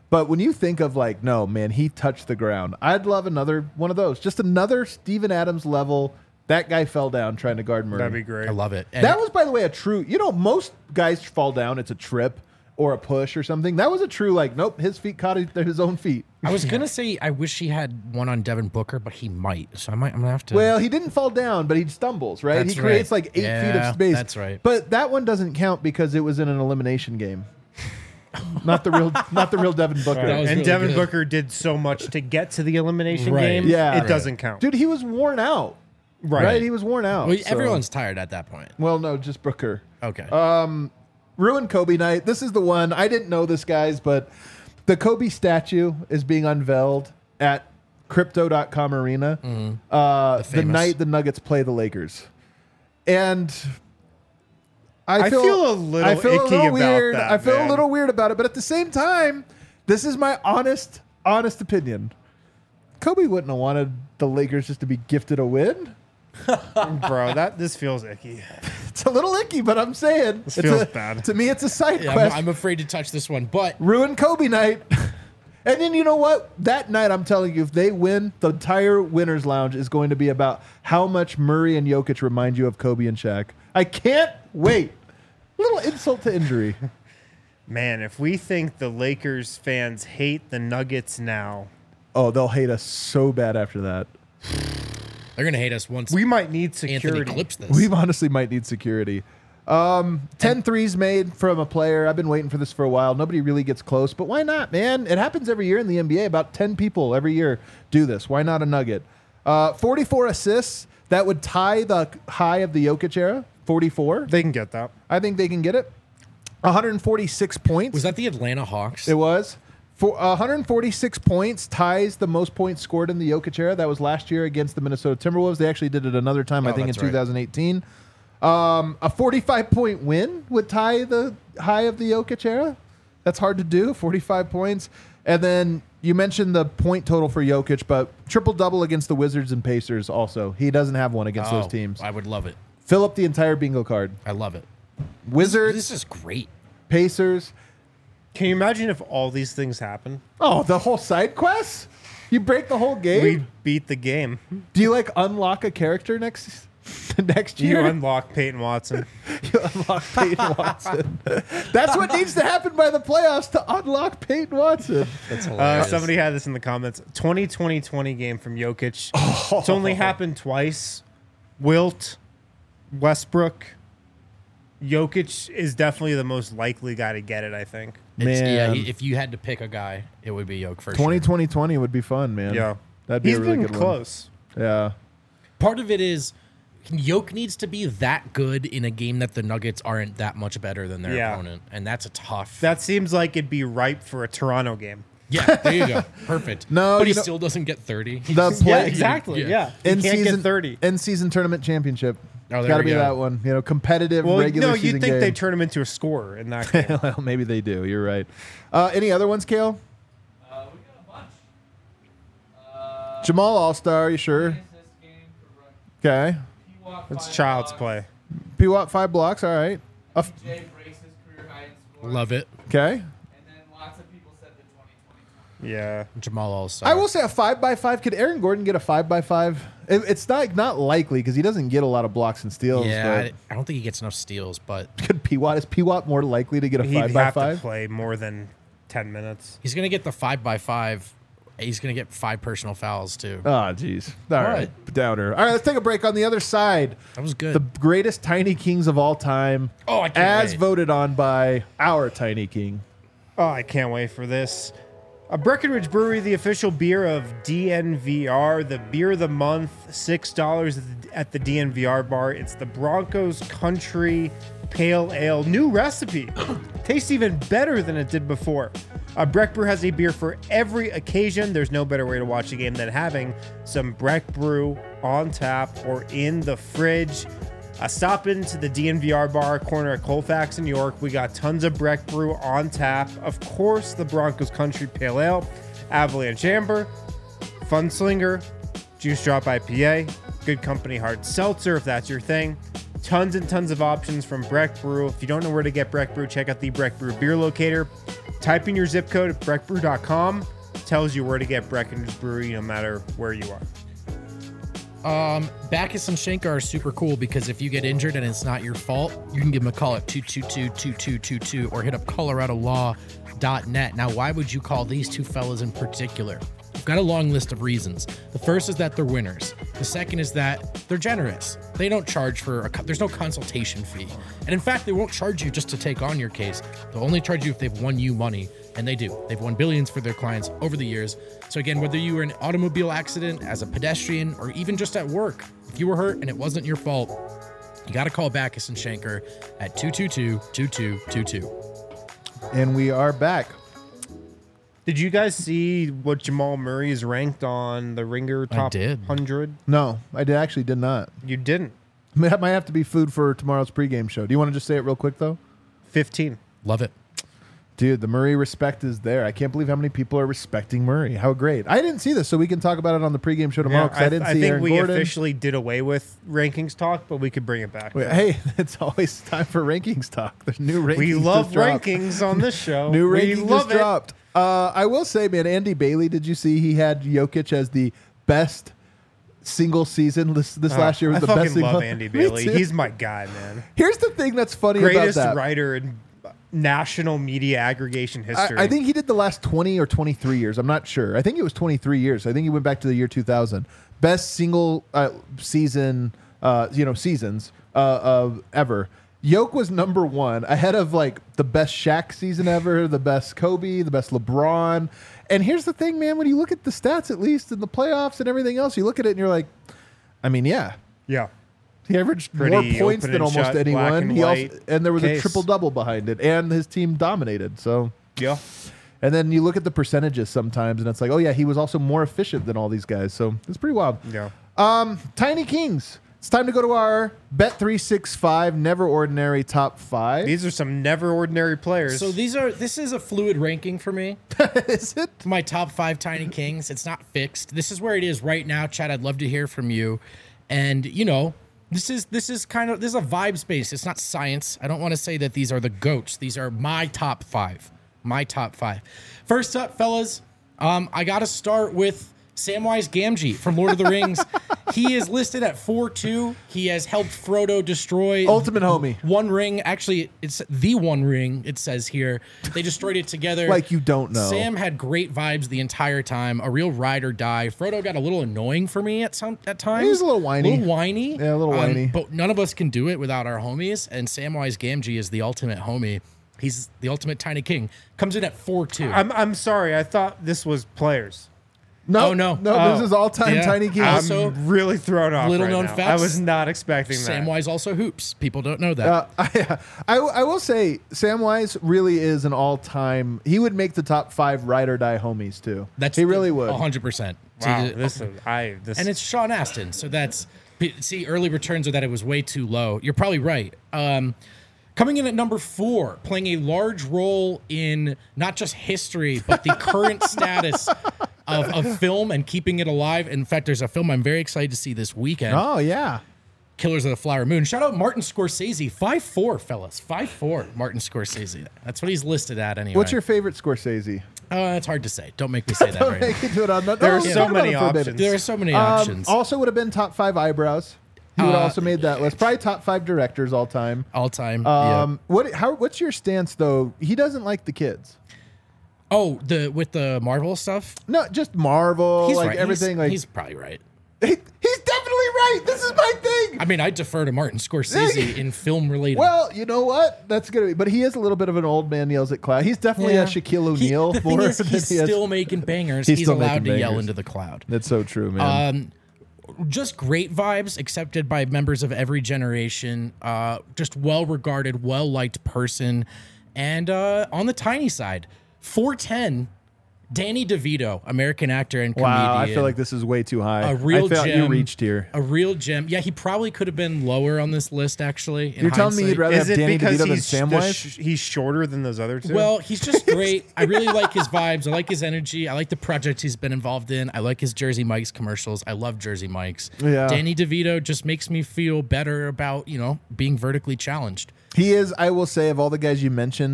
But when you think of like, no, man, he touched the ground. I'd love another one of those. Just another Steven Adams level. That guy fell down trying to guard Murray. That'd be great. I love it. And That was, by the way, a true. You know, most guys fall down. It's a trip or a push or something. That was a true like, nope, his feet caught his own feet. I was gonna say I wish he had one on Devin Booker, but he might. So I might. I'm gonna have to. Well, he didn't fall down, but he stumbles, right? That's he creates right. like eight feet Yeah, of space. that's right. But that one doesn't count because it was in an elimination game. not the real, not the real Devin Booker. That was and really Devin good. Booker did so much to get to the elimination Right. game. Yeah. it Right. doesn't count. Dude, he was worn out. Right. Right. He was worn out. Well, so- everyone's tired at that point. Well, no, just Booker. Okay. Ruined Kobe night. This is the one. I didn't know this, guys, but the Kobe statue is being unveiled at crypto dot com arena uh, the, famous. night the Nuggets play the Lakers. And I I feel, feel a little I feel a icky little about weird. that, I feel man. a little weird about it, but at the same time, this is my honest, honest opinion. Kobe wouldn't have wanted the Lakers just to be gifted a win. Bro, that this feels icky. It's a little icky, but I'm saying This it's feels a- bad. To me, it's a side yeah, quest. I'm, I'm afraid to touch this one, but Ruin Kobe night. And then you know what? That night, I'm telling you, if they win, the entire winners' lounge is going to be about how much Murray and Jokic remind you of Kobe and Shaq. I can't wait. Little insult to injury. Man, if we think the Lakers fans hate the Nuggets now, Oh, they'll hate us so bad after that. they're gonna hate us once we might need Anthony security. clips this. We honestly might need security. Um, ten threes made from a player. I've been waiting for this for a while. Nobody really gets close, but why not, man? It happens every year in the N B A. About ten people every year do this. Why not a Nugget? Uh, forty-four assists. That would tie the high of the Jokic era. forty-four. They can get that. I think they can get it. one hundred forty-six points. Was that the Atlanta Hawks? It was. For one hundred forty-six points ties the most points scored in the Jokic era. That was last year against the Minnesota Timberwolves. They actually did it another time, I Oh, think, in that's right. twenty eighteen. Um, a forty-five point win would tie the high of the Jokic era. That's hard to do, forty-five points. And then you mentioned the point total for Jokic, but triple-double against the Wizards and Pacers also. He doesn't have one against Oh, those teams. I would love it. Fill up the entire bingo card. I love it. Wizards, This is great. Pacers. Can you imagine if all these things happen? Oh, the whole side quest? You break the whole game? We beat the game. Do you like unlock a character next next You year? unlock Peyton Watson. You unlock Peyton Watson. That's what needs to happen by the playoffs to unlock Peyton Watson. That's Uh, hilarious. somebody had this in the comments. twenty twenty twenty game from Jokic. It's only happened twice. Wilt, Westbrook. Jokic is definitely the most likely guy to get it, I think. It's- yeah, Man. he- if you had to pick a guy, it would be Yoke for twenty sure. twenty twenty would be fun, man. Yeah. That'd be He's a really been good close. one. Yeah. Part of it is Yoke needs to be that good in a game that the Nuggets aren't that much better than their Yeah. opponent, and that's a tough. That seems like it'd be ripe for a Toronto game. yeah, there you go, perfect. No, but he you know- still doesn't get thirty. The Yeah, play, exactly. yeah. Yeah. He in can't season get thirty. in season tournament championship. Oh, there Got to we be go. that one. You know, competitive Well, regular no, season you'd think game. they'd turn him into a scorer in that game. Well, maybe they do. You're right. Uh, any other ones, Kale? Uh, we got a bunch. Uh, Jamal All Star. You sure? assist game for Run- Okay. P-Walk, It's five child's blocks. play. P Watt five blocks. All right. Uh, P J breaks his career high in scoring. Love it, okay. And then lots of people said the twenty twenty. Yeah. Jamal also. I will say a five by five. Could Aaron Gordon get a five by five? It, it's not not likely because he doesn't get a lot of blocks and steals. Yeah, I, but I don't think he gets enough steals, but could P Watt is P Watt more likely to get a He'd five by have to five? play more than ten minutes. he's gonna get the five by five. He's gonna get five personal fouls too. Oh, jeez. All right, downer. All right, let's take a break. On the other side, That was good. the greatest Tiny Kings of all time, oh, I can't as wait. voted on by our Tiny King. Oh, I can't wait for this. A Breckenridge Brewery, the official beer of D N V R, the beer of the month, six dollars at the D N V R bar. It's the Broncos Country Pale Ale. New recipe. Tastes even better than it did before. Uh, Breck Brew has a beer for every occasion. There's no better way to watch a game than having some Breck Brew on tap or in the fridge. Uh, stop into the D N V R bar corner at Colfax in New York. We got tons of Breck Brew on tap. Of course, the Broncos Country Pale Ale, Avalanche Amber, Funslinger, Juice Drop I P A, Good Company Hard Seltzer if that's your thing. Tons and tons of options from Breck Brew. If you don't know where to get Breck Brew, check out the Breck Brew Beer Locator. type in your zip code at breck brew dot com. Tells you where to get Breckenridge Brewery no matter where you are. Um, Bacchus and Schenker are super cool because if you get injured and it's not your fault, you can give them a call at two two two, two two two two or hit up colorado law dot net. Now, why would you call these two fellas in particular? I've got a long list of reasons. The first is that they're winners. The second is that they're generous. They don't charge for a, there's no consultation fee. And in fact, they won't charge you just to take on your case. They'll only charge you if they've won you money. And they do. They've won billions for their clients over the years. So again, whether you were in an automobile accident, as a pedestrian, or even just at work, if you were hurt and it wasn't your fault, you got to call Bacchus and Schenker at two two two, two two two two. And we are back. Did you guys see what Jamal Murray is ranked on the Ringer top did. one hundred? No, I did, actually did not. You didn't. That might have to be food for tomorrow's pregame show. Do you want to just say it real quick, though? fifteen. Love it. Dude, the Murray respect is there. I can't believe how many people are respecting Murray. How great. I didn't see this, so we can talk about it on the pregame show tomorrow because Yeah, I, didn't I see think Aaron we Gordon. officially did away with rankings talk, but we could bring it back. Wait, hey, it's always time for rankings talk. There's new rankings. we love just dropped. rankings on this show. New we ranking love just it. dropped. Uh, I will say, man, Andy Bailey, did you see he had Jokic as the best single season this, this Uh, last year? Was I the fucking best single. love Andy Me Bailey. too. He's my guy, man. Here's the thing that's funny Greatest about that. writer in national media aggregation history. I, I think he did the last twenty or twenty-three years. I'm not sure. I think it was twenty-three years. I think he went back to the year two thousand. Best single uh, season, uh, you know, seasons uh, of ever. Yoke was number one, ahead of like the best Shaq season ever, the best Kobe, the best LeBron. And here's the thing, man. When you look at the stats, at least in the playoffs and everything else, you look at it and you're like, I mean, yeah. Yeah. He averaged Pretty more points open than and almost shut, black anyone. and He also, white and there was a case. triple double behind it, and his team dominated. So Yeah. and then you look at the percentages sometimes, and it's like, oh yeah, he was also more efficient than all these guys. So it's pretty wild. Yeah. Um, Tiny Kings. It's time to go to our Bet three sixty-five Never Ordinary Top Five. These are some never ordinary players. So these are this is a fluid ranking for me. Is it? My top five Tiny Kings. It's not fixed. This is where it is right now, Chad. I'd love to hear from you. And you know, this is this is kind of this is a vibe space. It's not science. I don't want to say that these are the goats. These are my top five. My top five. First up, fellas, um, I got to start with Samwise Gamgee from Lord of the Rings. He is listed at four two. He has helped Frodo destroy Ultimate homie. One Ring. Actually, it's the One Ring, it says here. They destroyed it together. Like you don't know. Sam had great vibes the entire time. A real ride or die. Frodo got a little annoying for me at some at times. He was a little whiny. A little whiny. Yeah, a little whiny. But none of us can do it without our homies. And Samwise Gamgee is the ultimate homie. He's the ultimate Tiny King. Comes in at four two. I'm I'm sorry. I thought this was players. No, Oh, no. no. Oh. This is all time Yeah. Tiny Kings. Also- I'm really thrown off. little right known now. facts, I was not expecting that. Samwise also hoops. People don't know that. Uh, I, I, I will say Samwise really is an all-time. He would make the top five ride or die homies too. That's he really would. one hundred percent. Wow. See, This is I. This and it's Sean Astin. So that's see, early returns are that it was way too low. You're probably right. Um, coming in at number four, playing a large role in not just history but the current status of, of film and keeping it alive. In fact, there's a film I'm very excited to see this weekend. Oh yeah. Killers of the Flower Moon. Shout out Martin Scorsese. five four, fellas. five four, Martin Scorsese. That's what he's listed at anyway. What's your favorite Scorsese? Uh, it's hard to say. Don't make me say that Don't right now. make you do it on that. There No, are talk so about many it for a bit. options. There are so many Um, options. also would have been top five eyebrows. He would Uh, also made that list. Probably top five directors all time. All time. Um, what? How? What's your stance though? He doesn't like the kids. yeah. Oh, the with the Marvel stuff? No, just Marvel, He's like right. everything. He's, like he's probably right. he, he's definitely right. This is my thing. I mean, I defer to Martin Scorsese in film related. Well, you know what? That's gonna be. But he is a little bit of an old man yells at cloud. He's definitely a Shaquille O'Neal. He, the thing more is, than he's he is- still making bangers. He's He's, still allowed making to yell bangers. into the cloud. That's so true, man. Um, just great vibes, accepted by members of every generation. Uh, just well regarded, well liked person, and uh, on the tiny side, four ten. Danny DeVito, American actor and comedian. wow, I feel like this is way too high. A real I felt you gem. reached here. a real gem. Yeah, he probably could have been lower on this list. Actually, in You're telling me hindsight. you'd rather is have it Danny because DeVito than he's the Samwise? sh- he's shorter than those other two? Well, he's just great. I really like his vibes. I like his energy. I like the projects he's been involved in. I like his Jersey Mike's commercials. I love Jersey Mike's. Yeah. Danny DeVito just makes me feel better about, you know, being vertically challenged. He is, I will say, of all the guys you mentioned,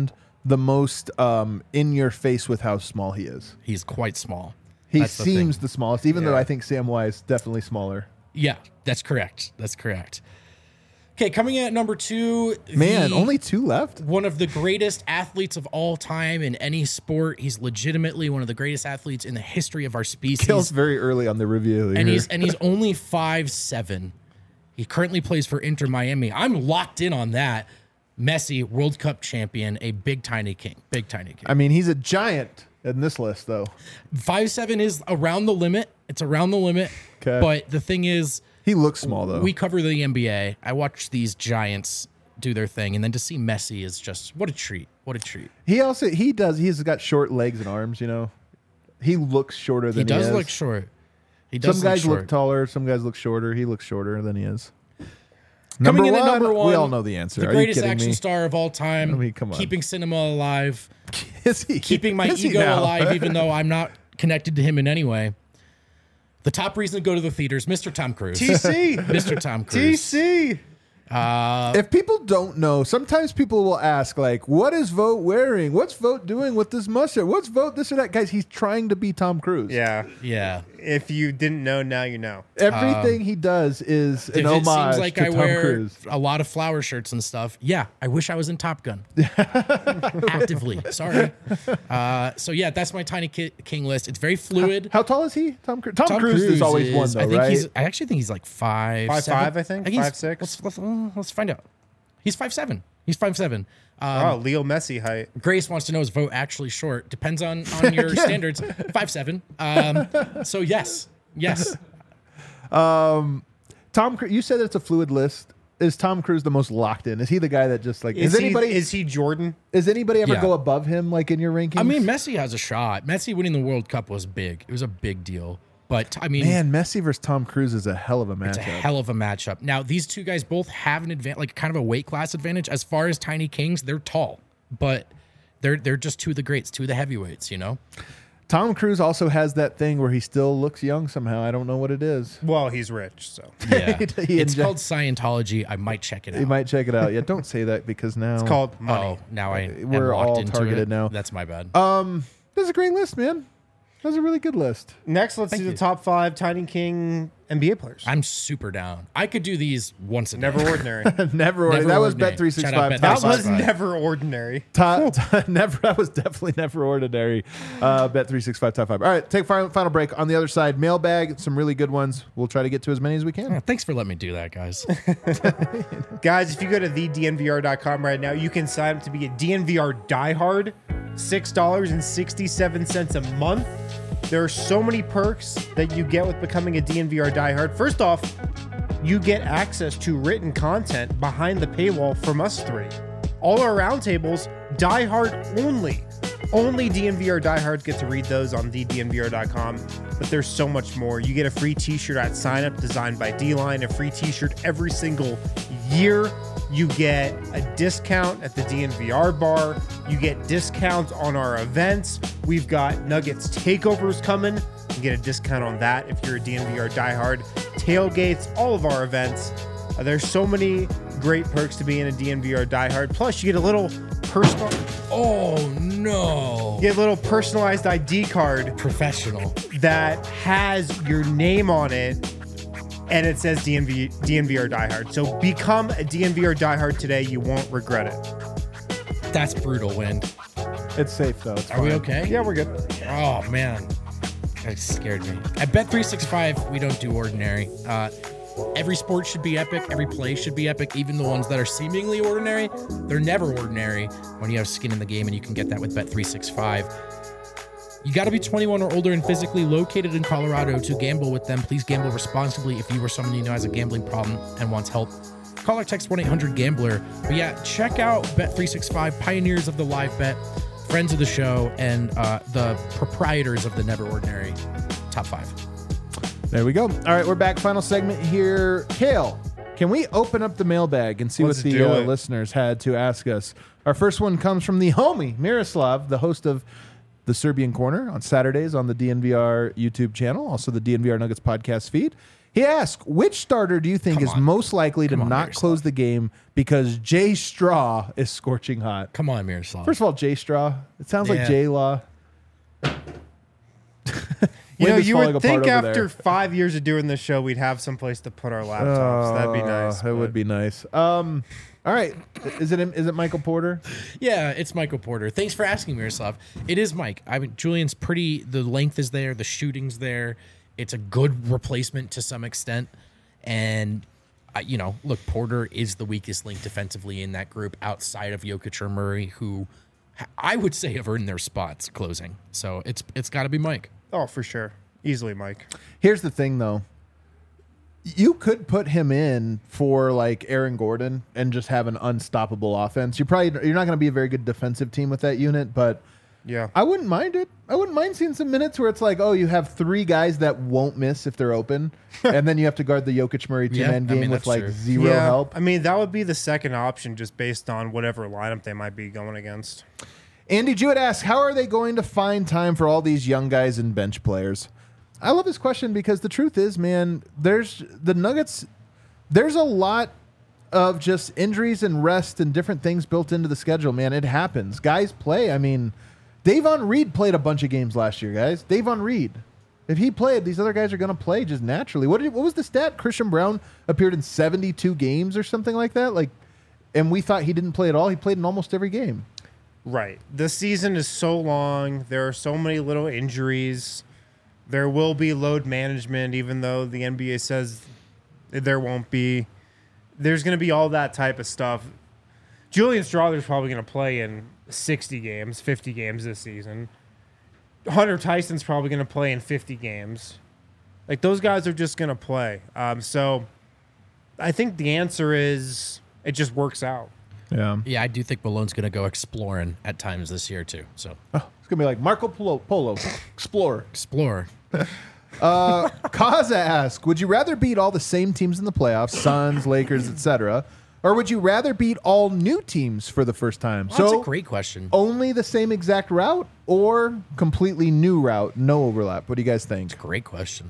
the most um, in your face with how small he is. He's quite small. He That's the seems thing. the, smallest, even though Yeah. I think Samwise is definitely smaller. Yeah, that's correct. That's correct. Okay, coming in at number two. Man, the- only two left? one of the greatest athletes of all time in any sport. He's legitimately one of the greatest athletes in the history of our species. Kills very early on the review. and here. he's and he's only five seven. He currently plays for Inter Miami. I'm locked in on that. Messi, World Cup champion, a big tiny king. Big tiny king. I mean, he's a giant in this list, though. five seven is around the limit. It's around the limit. 'Kay. But the thing is, He looks small, though. we cover the N B A. I watch these giants do their thing, and then to see Messi is just what a treat. What a treat. he also, he does, he's got short legs and arms, you know. He looks shorter than He he, does is. look short. He does Some look guys short. look taller. Some guys look shorter. He looks shorter than he is. Coming in at number one, we all know the answer. The Are you greatest kidding action me? star of all time. I mean, come on. Keeping cinema alive. Is he? Keeping my Is he ego now? alive, even though I'm not connected to him in any way. The top reason to go to the theaters, Mister Tom Cruise. T C. Mister Tom T Cruise. C. If people don't know, sometimes people will ask, like, what is Vogt wearing? What's Vogt doing with this mustache? What's Vogt this or that? Guys, he's trying to be Tom Cruise. Yeah. Yeah. If you didn't know, now you know. Everything he does is an If it homage seems like to I Tom wear Cruise. a lot of flower shirts and stuff, yeah, I wish I was in Top Gun. Actively. Sorry. Uh, so, yeah, that's my Tiny Ki- King list. It's very fluid. How tall is he? Tom Cruise. Tom, Cruise, is always one, though, I think right? he's. I actually think he's like five, Five, seven. five, I think. he's- Five, six. Let's, let's, uh, let's find out. He's five seven. He's five seven. Um, Oh, Leo Messi height. Grace wants to know is Vogt actually short? Depends on on your standards. Five seven. Um, so yes, yes. Tom, Cru- you said it's a fluid list. Is Tom Cruise the most locked in? Is he the guy that just like Is, is anybody he, is he Jordan? is anybody ever Yeah. go above him like in your rankings? I mean, Messi has a shot. Messi winning the World Cup was big. It was a big deal. But I mean, man, Messi versus Tom Cruise is a hell of a matchup. it's a hell of a matchup. Now, these two guys both have an advantage, like kind of a weight class advantage. As far as Tiny Kings, they're tall, but they're they're just two of the greats, two of the heavyweights. You know. Tom Cruise also has that thing where he still looks young somehow. I don't know what it is. Well, he's rich, so. Yeah. He It's inject- called Scientology. I might check it out. You might check it out. Yeah, don't say that because now It's called money. Oh, now I am We're locked all into targeted it. now. That's my bad. Um, that's a great list, man. That's a really good list. Next, let's Thank do you. the top five Tiny King N B A players. I'm super down. I could do these once a day. Never ordinary. Never. Never that was ordinary. Bet three six Shout out five. Bet That Top was five. never ordinary. Top, top- never. That was definitely never ordinary. Uh, Bet three six five top five. All right, take final final break. On the other side, mailbag. Some really good ones. We'll try to get to as many as we can. Yeah, thanks for letting me do that, guys. Guys, if you go to the D N V R dot com right now, you can sign up to be a D N V R diehard. six dollars and sixty-seven cents a month. There are so many perks that you get with becoming a D N V R diehard. First off, you get access to written content behind the paywall from us three. All our roundtables, diehard only. Only D N V R diehards get to read those on the D N V R dot com, but there's so much more. You get a free t-shirt at sign up designed by D-Line, a free t-shirt every single year. You get a discount at the D N V R bar. You get discounts on our events. We've got Nuggets takeovers coming. You get a discount on that if you're a D N V R diehard. Tailgates, all of our events. Uh, there's so many great perks to being a D N V R diehard. Plus, you get a little personal, Oh no. you get a little personalized I D card Professional. that has your name on it, and it says D N V D N V R diehard. So become a D N V R diehard today. You won't regret it. That's brutal, Wind. It's safe though. It's Are we fine. okay? Yeah, we're good. Oh man. That scared me. At Bet three sixty-five, we don't do ordinary. Uh, every sport should be epic. Every play should be epic. Even the ones that are seemingly ordinary, they're never ordinary when you have skin in the game, and you can get that with Bet three sixty-five. You got to be twenty-one or older and physically located in Colorado to gamble with them. Please gamble responsibly if you or someone you know has a gambling problem and wants help. Call or text one eight hundred gambler. But yeah, check out Bet three sixty-five, pioneers of the live bet, friends of the show, and uh, the proprietors of the Never Ordinary top five. There we go. All right, we're back. Final segment here. Kale, can we open up the mailbag and see Let's what the do uh, it. listeners had to ask us? Our first one comes from the homie, Miroslav, the host of the Serbian Corner on Saturdays on the D N V R YouTube channel, also the D N V R Nuggets podcast feed. He asks, which starter do you think Come is on. most likely to Come on, not Miroslav. close the game because Jay Straw is scorching hot? Come on, Miroslav. First of all, Jay Straw. It sounds like Yeah. J Law. You know, Wind is you falling would apart think over after there. five years of doing this show, we'd have someplace to put our laptops. That'd be nice. It would but- be nice. Um, all right. Is it is it Michael Porter? Yeah, it's Michael Porter. Thanks for asking, Miroslav. It is Mike. I mean, Julian's pretty. The length is there. The shooting's there. It's a good replacement to some extent. And, uh, you know, look, Porter is the weakest link defensively in that group outside of Jokic or Murray, who I would say have earned their spots closing. So it's it's got to be Mike. Oh, for sure. Easily, Mike. Here's the thing, though. You could put him in for like Aaron Gordon and just have an unstoppable offense. You're probably you're not going to be a very good defensive team with that unit, but Yeah. I wouldn't mind it. I wouldn't mind seeing some minutes where it's like, oh, you have three guys that won't miss if they're open, and then you have to guard the Jokic Murray two Yeah, man I game mean, with that's like true. zero yeah. help. I mean, that would be the second option just based on whatever lineup they might be going against. Andy Jewett asks, how are they going to find time for all these young guys and bench players? I love this question because the truth is, man, there's the Nuggets. There's a lot of just injuries and rest and different things built into the schedule, man. It happens. Guys play. I mean, Davon Reed played a bunch of games last year, guys. Davon Reed. If he played, these other guys are going to play just naturally. What did, what was the stat? Christian Brown appeared in seventy-two games or something like that. Like, and we thought he didn't play at all. He played in almost every game. Right. The season is so long. There are so many little injuries. There will be load management, even though the N B A says there won't be. There's going to be all that type of stuff. Julian Strawther's probably going to play in sixty games, fifty games this season. Hunter Tyson's probably going to play in fifty games. Like, those guys are just going to play. Um, so I think the answer is it just works out. Yeah. Yeah, I do think Malone's going to go exploring at times this year too. So Oh, it's going to be like Marco Polo, Polo Explorer. explore. Uh, Kaza asks, would you rather beat all the same teams in the playoffs, Suns, Lakers, et cetera, or would you rather beat all new teams for the first time? Well, that's so a great question. only the same exact route or completely new route, no overlap? What do you guys think? Great question.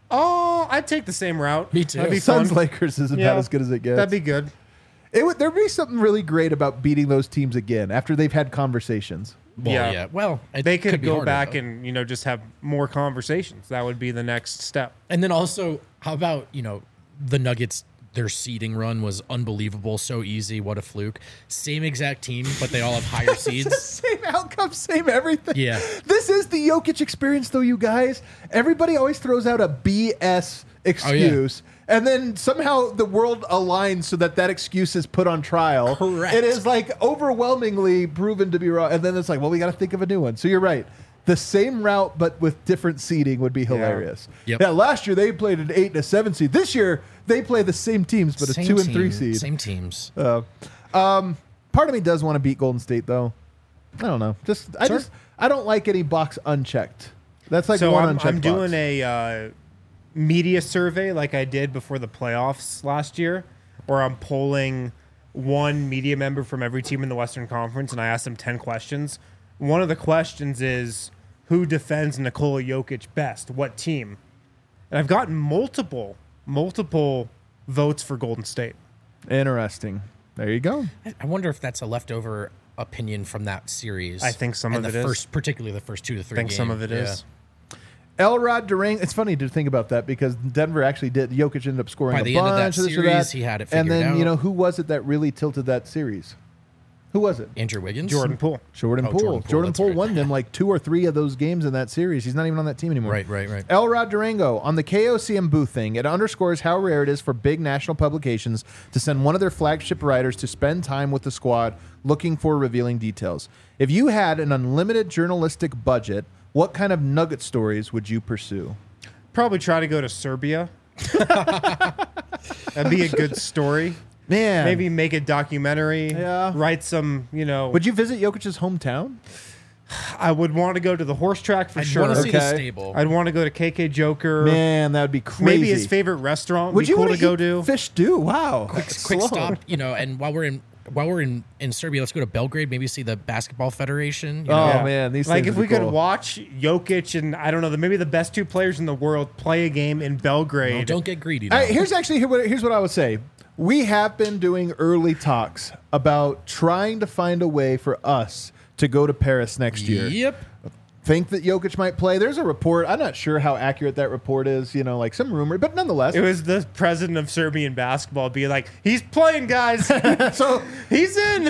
Oh, I'd take the same route. Me too. That'd be Suns, fun. Lakers is about Yeah, as good as it gets. That'd be good. It would, there'd be something really great about beating those teams again after they've had conversations. Well, Yeah. yeah. Well, it They could, be go harder, back though. and, you know, just have more conversations. That would be the next step. And then also, how about, you know, the Nuggets, their seeding run was unbelievable. So easy. What a fluke. Same exact team, but they all have higher seeds. Same outcome, same everything. Yeah. This is the Jokic experience, though, you guys. Everybody always throws out a B S excuse. And then somehow the world aligns so that that excuse is put on trial. Correct. It is like overwhelmingly proven to be wrong. And then it's like, well, we got to think of a new one. So you're right. The same route, but with different seeding would be hilarious. Yep. Yeah, last year they played an eight and a seven seed. This year they play the same teams, but Same a two and team, three seed. Same teams. Uh, um, part of me does want to beat Golden State, though. I don't know. Just I Sure. just I don't like any box unchecked. That's like so one I'm, unchecked I'm doing box. a uh, media survey like I did before the playoffs last year, where I'm polling one media member from every team in the Western Conference, and I asked them ten questions. One of the questions is, who defends Nikola Jokic best? What team? And I've gotten multiple, multiple votes for Golden State. Interesting. There you go. I- I wonder if that's a leftover opinion from that series. I think some and of the it is. first, particularly the first two to three. I think some games. of it is. Yeah. Elrod Durang. It's funny to think about that because Denver actually did. Jokic ended up scoring By a the end of that bunch of this or series, that. he had it And figured then you out. know who was it that really tilted that series? Who was it? Andrew Wiggins, Jordan Poole. Jordan Oh, Poole. Jordan Poole, Jordan that's Poole right. won them like two or three of those games in that series. He's not even on that team anymore. Right, right, right. Elrod Durango, on the K O C M booth thing, it underscores how rare it is for big national publications to send one of their flagship writers to spend time with the squad looking for revealing details. If you had an unlimited journalistic budget, what kind of nugget stories would you pursue? Probably try to go to Serbia. That'd be a good story. Man. Maybe make a documentary. Yeah. Write some, you know. Would you visit Jokic's hometown? I would want to go to the horse track for I'd sure. want to see the Okay. stable. I'd want to go to K K Joker. Man, that would be crazy. Maybe his favorite restaurant would Would be you cool want to go eat to. fish stew? Wow. quick, That's quick slow. stop, you know, and while we're in while we're in, in Serbia, let's go to Belgrade. Maybe see the basketball federation. You Oh, know? Yeah. man, these like things if would we be could cool. watch Jokic and I don't know, the, maybe the best two players in the world play a game in Belgrade. No, don't get greedy. Now. Hey, here's actually here what, here's what I would say. We have been doing early talks about trying to find a way for us to go to Paris next year. Yep. Think that Jokic might play. There's a report. I'm not sure how accurate that report is. You know, like some rumor, but nonetheless. It was the president of Serbian basketball being like, he's playing, guys. so, He's in.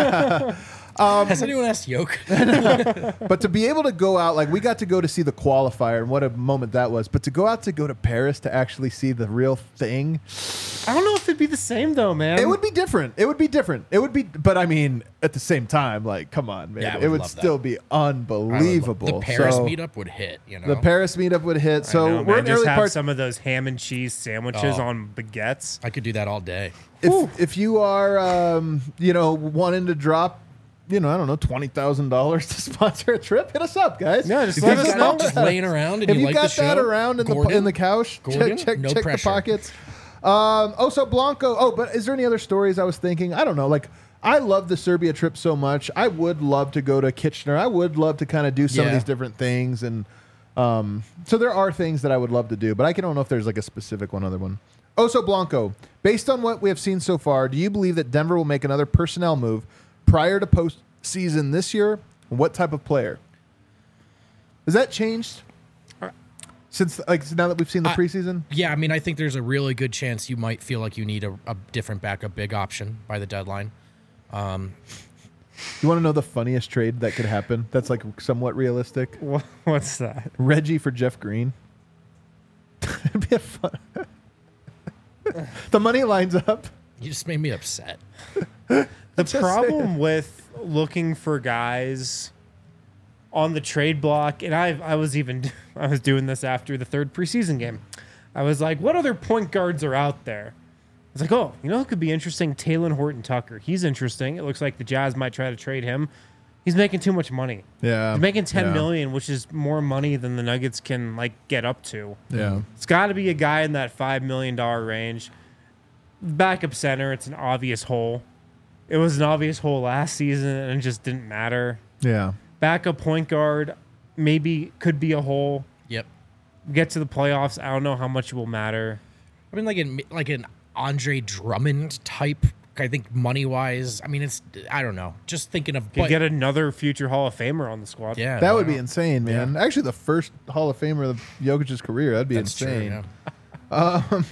Has anyone asked Yoke? but to be able to go out, like we got to go to see the qualifier, and what a moment that was. But to go out to go to Paris to actually see the real thing, I don't know if it'd be the same though, man. it would be different. It would be different. It would be, but I mean, at the same time, like, come on, man, Yeah, I it would would love that. still be unbelievable. The Paris So, meetup would hit. You know. The Paris meetup would hit. I So know, we're man. in Just early have parts. some of those ham and cheese sandwiches Oh. on baguettes. I could do that all day. If if you are, um, you know, wanting to drop, you know, I don't know, twenty thousand dollars to sponsor a trip, hit us up, guys. Yeah, just If let you've us Got got it know. just laying around and If you you like got the that show, around in the Gordon, in the couch, Gordon, check check no check the pressure. pockets. Um, oh, so Blanco. Oh, but is there any other stories I was thinking? I don't know. Like, I love the Serbia trip so much. I would love to go to Kitchener. I would love to kind of do some of Yeah. these different things, and um, so there are things that I would love to do, but I don't know if there's like a specific one other one. Oso Blanco, based on what we have seen so far, do you believe that Denver will make another personnel move prior to postseason this year? What type of player? Has that changed since, like, now that we've seen the I- preseason? Yeah, I mean, I think there's a really good chance you might feel like you need a, a different backup big option by the deadline. You want to know the funniest trade that could happen? That's like somewhat realistic. Wha- What's that? Reggie for Jeff Green. It'd be a fun. The money lines up. You just made me upset. The Just problem saying. with looking for guys on the trade block, and I I was even I was doing this after the third preseason game. I was like, what other point guards are out there? I was like, oh, you know who could be interesting? Taylor Horton Tucker. He's interesting. It looks like the Jazz might try to trade him. He's making too much money. Yeah. He's making ten yeah. million, which is more money than the Nuggets can like get up to. Yeah. It's got to be a guy in that five million dollar range. Backup center, it's an obvious hole. It was an obvious hole last season, and it just didn't matter. Yeah. Backup point guard, maybe could be a hole. Yep. Get to the playoffs, I don't know how much it will matter. I mean, like an like an Andre Drummond type. I think money wise, I mean, it's I don't know. Just thinking of Could but, get another future Hall of Famer on the squad. yeah, That why would be not? insane, man. Actually, the first Hall of Famer of Jokic's career. That'd be That's true. insane. Yeah.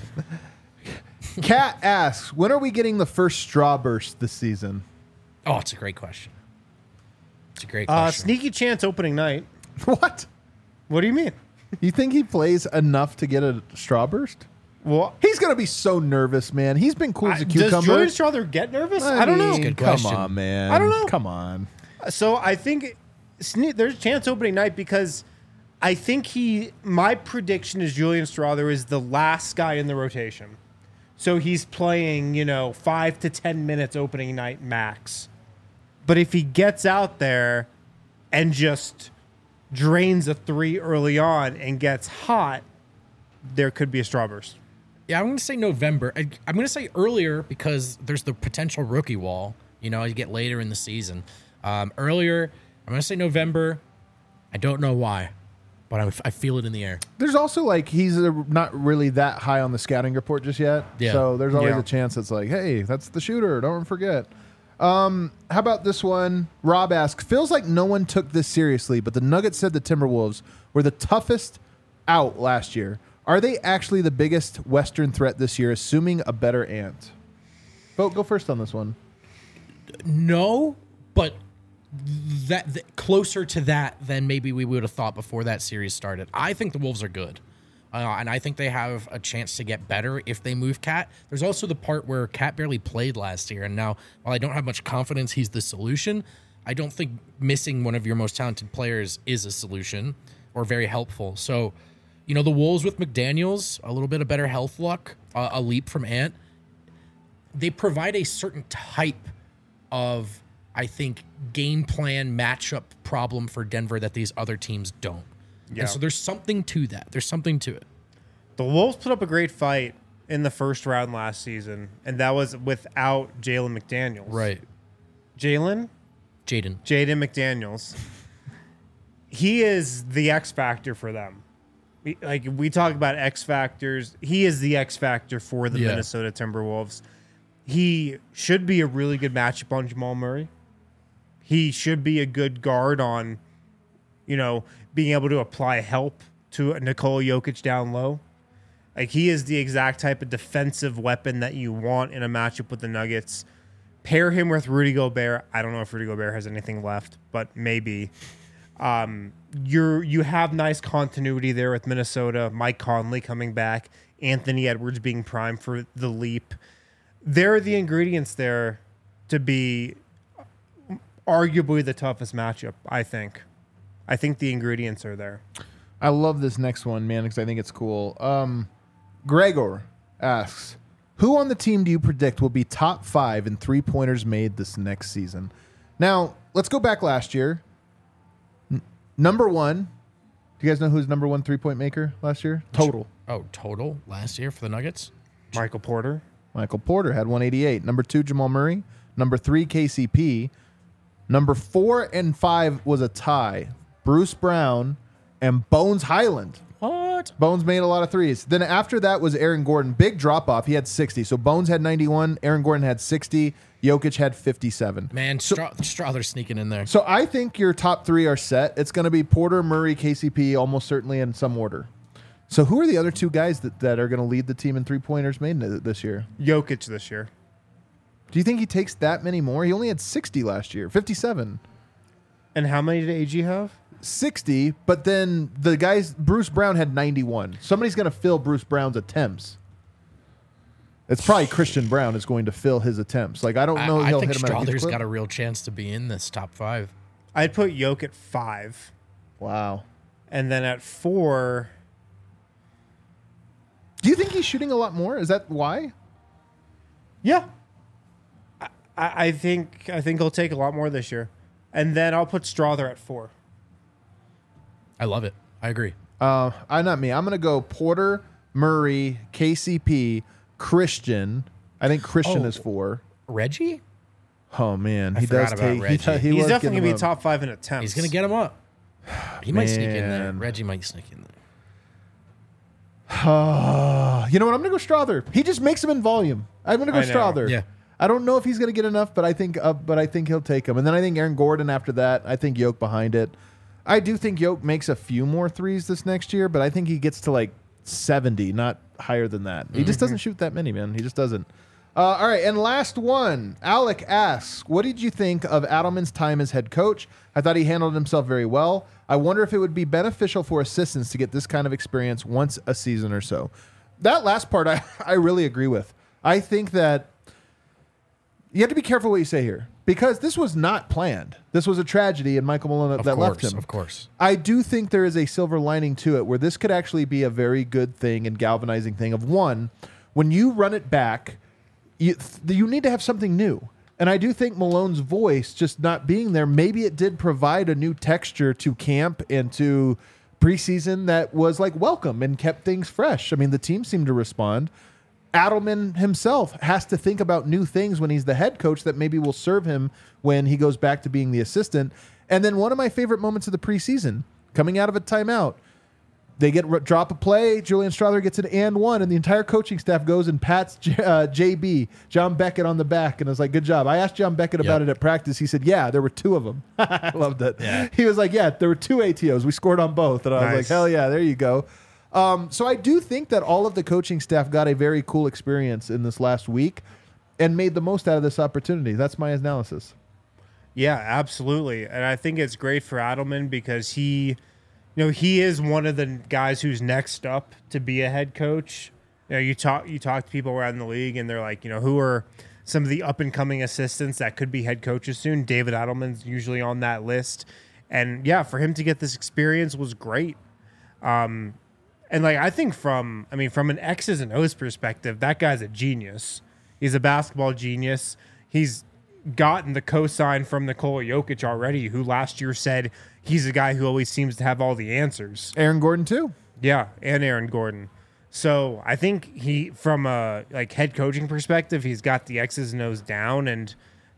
Kat asks, when are we getting the first straw burst this season? Oh, it's a great question. It's a great Uh, question. sneaky chance opening night. What? What do you mean? You think he plays enough to get a straw burst? Well, He's gonna be so nervous, man. He's been cool as a does cucumber. Julian Strother get nervous? I, don't know. mean, Good Come question. on, man. I don't know. Come on. So I think sne- there's a chance opening night because I think he. My prediction is Julian Strother is the last guy in the rotation, so he's playing you know five to ten minutes opening night max. But if he gets out there and just drains a three early on and gets hot, there could be a straw burst. Yeah, I'm going to say November. I, I'm going to say earlier because there's the potential rookie wall. You know, you get later in the season. Um, earlier, I'm going to say November. I don't know why, but I'm, I feel it in the air. There's also like he's uh not really that high on the scouting report just yet. Yeah. So there's always Yeah. a chance it's like, hey, that's the shooter. Don't forget. Um, how about this one? Rob asks, feels like no one took this seriously, but the Nuggets said the Timberwolves were the toughest out last year. Are they actually the biggest Western threat this year, assuming a better Ant? Vote, go first on this one. No, but that, that closer to that than maybe we would have thought before that series started. I think the Wolves are good. Uh, and I think they have a chance to get better if they move Cat. There's also the part where Cat barely played last year, and now while I don't have much confidence he's the solution, I don't think missing one of your most talented players is a solution or very helpful. So, you know, the Wolves with McDaniels, a little bit of better health luck, uh, a leap from Ant, they provide a certain type of, I think, game plan matchup problem for Denver that these other teams don't. Yeah. And so there's something to that. There's something to it. The Wolves put up a great fight in the first round last season, and that was without Jalen McDaniels. Right. Jalen? Jaden. Jaden McDaniels. He is the X factor for them. We, like we talk about X factors, he is the X factor for the Yeah. Minnesota Timberwolves. He should be a really good matchup on Jamal Murray. He should be a good guard on, you know, being able to apply help to Nikola Jokic down low. Like he is the exact type of defensive weapon that you want in a matchup with the Nuggets. Pair him with Rudy Gobert. I don't know if Rudy Gobert has anything left, but maybe. Um, you're you have nice continuity there with Minnesota. Mike Conley coming back, Anthony Edwards being primed for the leap. There are the ingredients there to be arguably the toughest matchup. I think. I think the ingredients are there. I love this next one, man, because I think it's cool. Um, Gregor asks, who on the team do you predict will be top five in three-pointers made this next season? Now, let's go back last year. N- number one, do you guys know who's number one three-point maker last year? Total. Oh, total last year for the Nuggets? Michael Porter. Michael Porter had one eighty-eight. Number two, Jamal Murray. Number three, K C P. Number four and five was a tie. Bruce Brown and Bones Highland. What? Bones made a lot of threes. Then after that was Aaron Gordon. Big drop off. He had sixty. So Bones had ninety-one. Aaron Gordon had sixty. Jokic had fifty-seven. Man, Stra- Strother's sneaking in there. So I think your top three are set. It's going to be Porter, Murray, K C P, almost certainly in some order. So who are the other two guys that, that are going to lead the team in three-pointers made this year? Jokic this year. Do you think he takes that many more? He only had sixty last year, fifty-seven. And how many did A G have? sixty, but then the guys, Bruce Brown had ninety-one. Somebody's going to fill Bruce Brown's attempts. It's probably Christian Brown is going to fill his attempts. Like, I don't know. I, I he'll think hit him at a huge Strother's clip. got a real chance to be in this top five. I'd put Jokic at five. Wow. And then at four, Do you think he's shooting a lot more? Is that why? yeah. I, I I think I think he'll take a lot more this year. And then I'll put Strother at four. I love it. I agree. Uh, I not me. I'm going to go Porter, Murray, K C P, Christian. I think Christian Oh. is four. Reggie? Oh man, I he forgot does about take. Reggie. He, he He's was definitely getting going to be him top five in attempts. He's going to get him up. He might sneak in there. Man. Reggie might sneak in there. up. You know what? I'm going to go Strother. He just makes him in volume. I'm going to go I know. Strother. Yeah. I don't know if he's going to get enough, but I think, uh, but I think he'll take him. And then I think Aaron Gordon after that. I think Yoke behind it. I do think Yoke makes a few more threes this next year, but I think he gets to like seventy, not higher than that. He just doesn't shoot that many, man. He just doesn't. Uh, all right, and last one. Alec asks, what did you think of Adelman's time as head coach? I thought he handled himself very well. I wonder if it would be beneficial for assistants to get this kind of experience once a season or so. That last part, I, I really agree with. I think that you have to be careful what you say here because this was not planned. This was a tragedy, and Michael Malone Of that course, left him. of course. I do think there is a silver lining to it where this could actually be a very good thing and galvanizing thing of one, when you run it back, you, you need to have something new. And I do think Malone's voice just not being there, maybe it did provide a new texture to camp and to preseason that was like welcome and kept things fresh. I mean, the team seemed to respond. Adelman himself has to think about new things when he's the head coach that maybe will serve him when he goes back to being the assistant. And then one of my favorite moments of the preseason, coming out of a timeout, they get drop a play. Julian Strother gets an and one, and the entire coaching staff goes and pats J, uh, J B, John Beckett, on the back, and is like, good job. I asked John Beckett about Yep. it at practice. He said, yeah, there were two of them. I loved it. Yeah. He was like, yeah, there were two A T Os. We scored on both. And I was like, Nice. hell yeah, there you go. Um, so I do think that all of the coaching staff got a very cool experience in this last week and made the most out of this opportunity. That's my analysis. Yeah, absolutely. And I think it's great for Adelman because he, you know, he is one of the guys who's next up to be a head coach. You know, you talk you talk to people around the league and they're like, you know, who are some of the up and coming assistants that could be head coaches soon? David Adelman's usually on that list. And yeah, for him to get this experience was great. Um, and like I think from I mean from an X's and O's perspective, that guy's a genius. He's a basketball genius. He's gotten the cosign from Nikola Jokic already, who last year said he's a guy who always seems to have all the answers. Aaron Gordon, too. Yeah, and Aaron Gordon. So I think he, from a like head coaching perspective, he's got the X's and O's down, and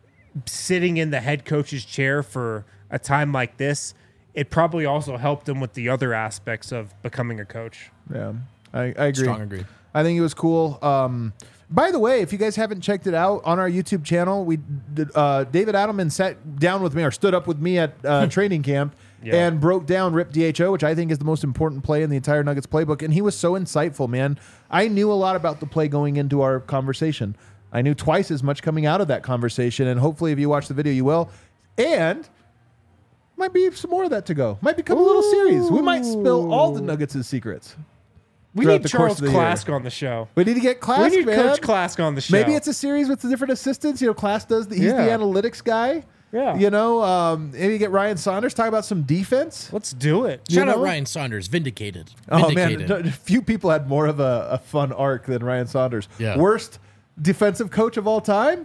sitting in the head coach's chair for a time like this, it probably also helped him with the other aspects of becoming a coach. Yeah, I, I agree. Strong agree. I think it was cool. Um, by the way, if you guys haven't checked it out on our YouTube channel, we did, uh, David Adelman sat down with me or stood up with me at uh, training camp yeah. and broke down Rip D H O, which I think is the most important play in the entire Nuggets playbook. And he was so insightful, man. I knew a lot about the play going into our conversation. I knew twice as much coming out of that conversation. And hopefully, if you watch the video, you will. And might be some more of that to go. Might become Ooh. a little series. We might spill all the Nuggets' secrets. We need Charles Klask on the show. We need to get Klask, We need man. Coach Klask on the show. Maybe it's a series with the different assistants. You know, Klask does. The, he's Yeah. the analytics guy. Yeah. You know, um, maybe get Ryan Saunders talk about some defense. Let's do it. Shout You out know? Ryan Saunders, vindicated. Oh Vindicated. man, a few people had more of a, a fun arc than Ryan Saunders. Yeah. Worst defensive coach of all time.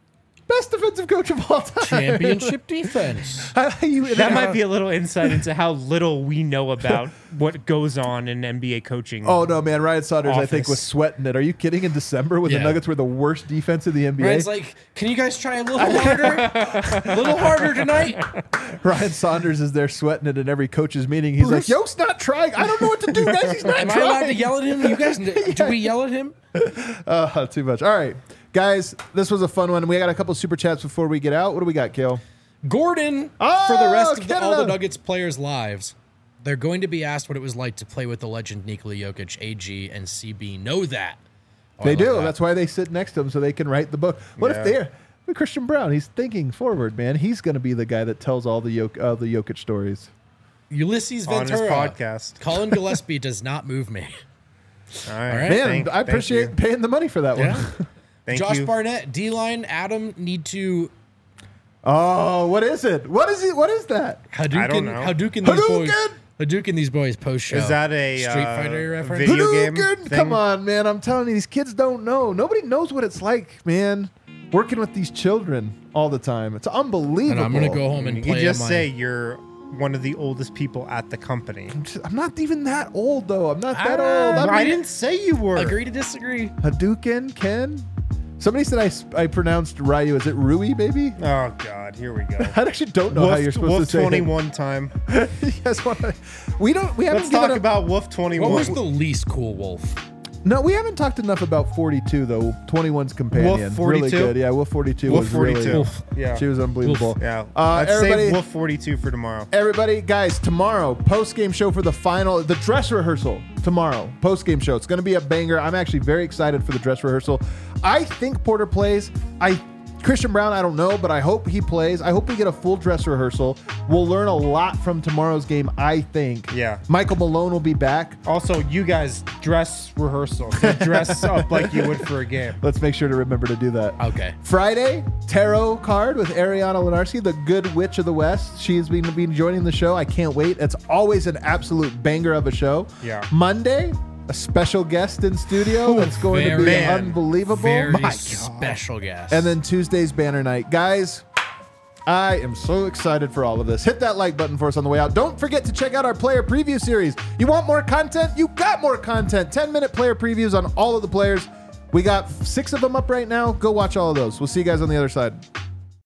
Best defensive coach of all time. Championship defense. You- That might be a little insight into how little we know about what goes on in N B A coaching. Oh no, man! Ryan Saunders, I think, Office. was sweating it. Are you kidding? In December, when Yeah. the Nuggets were the worst defense in the N B A, Ryan's like, can you guys try a little harder? A little harder tonight? Ryan Saunders is there sweating it in every coach's meeting. He's Bruce- like, "Yo's not trying. I don't know what to do, guys. He's not Am I trying." allowed to yell at him? You guys, do we yell at him? Uh, too much. All right, guys, this was a fun one. We got a couple super chats before we get out. What do we got, Kale? Gordon, Oh, for the rest of the, all Canada. the Nuggets players' lives, they're going to be asked what it was like to play with the legend Nikola Jokic. A G and C B know that. Oh, I They love do. that. That's why they sit next to him so they can write the book. What Yeah. if they're but Christian Brown? He's thinking forward, man. He's going to be the guy that tells all the Jok- uh, the Jokic stories. Ulysses On his Ventura. podcast. Colin Gillespie does not move me. All right. All right. Man, Thank- I thank appreciate you. paying the money for that Yeah. one. Thank Josh you. Barnett, D-line, Adam need to Oh, what is it? What is it? What is that? Hadouken, I don't know. Hadouken these boys. Hadouken! Hadouken these boys post show. Is that a Street uh, Fighter reference? video game? Hadouken! thing? Come on, man. I'm telling you, these kids don't know. Nobody knows what it's like, man. Working with these children all the time. It's unbelievable. And I'm gonna go home and You play. just on my, say you're one of the oldest people at the company. I'm not even that old, though. I'm not that Ah, old. I'm I didn't say you were. agree to disagree. Hadouken, Ken? Somebody said I, sp- I pronounced Ryu. Is it Rui, baby? Oh God, here we go. I actually don't know how you're supposed Wolf to say it. twenty-one time. You guys wanna- we don't. We haven't Let's given talk a- about Wolf What twenty-one. was the least cool wolf? No, we haven't talked enough about forty-two though. twenty-one's companion, Wolf really forty-two? good. Yeah, Wolf forty-two Wolf was forty-two. really. Wolf. Yeah. She was unbelievable. Yeah. Uh, Let's everybody, save Wolf forty-two for tomorrow. everybody, guys, tomorrow post game show for the final, the dress rehearsal tomorrow. Post game show. It's going to be a banger. I'm actually very excited for the dress rehearsal. I think Porter plays. I. Christian Brown, I don't know, but I hope he plays. I hope we get a full dress rehearsal. We'll learn a lot from tomorrow's game, I think. Yeah. Michael Malone will be back. Also, you guys dress rehearsal. So dress up like you would for a game. Let's make sure to remember to do that. Okay. Friday, tarot card with Ariana Lenarski, the good witch of the West. She's been, been joining the show. I can't wait. It's always an absolute banger of a show. Yeah. Monday, a special guest in studio that's going to be very- unbelievable. Very My God. special guest. And then Tuesday's banner night. Guys, I am so excited for all of this. Hit that like button for us on the way out. Don't forget to check out our player preview series. You want more content? You got more content. ten minute player previews on all of the players. We got six of them up right now. Go watch all of those. We'll see you guys on the other side.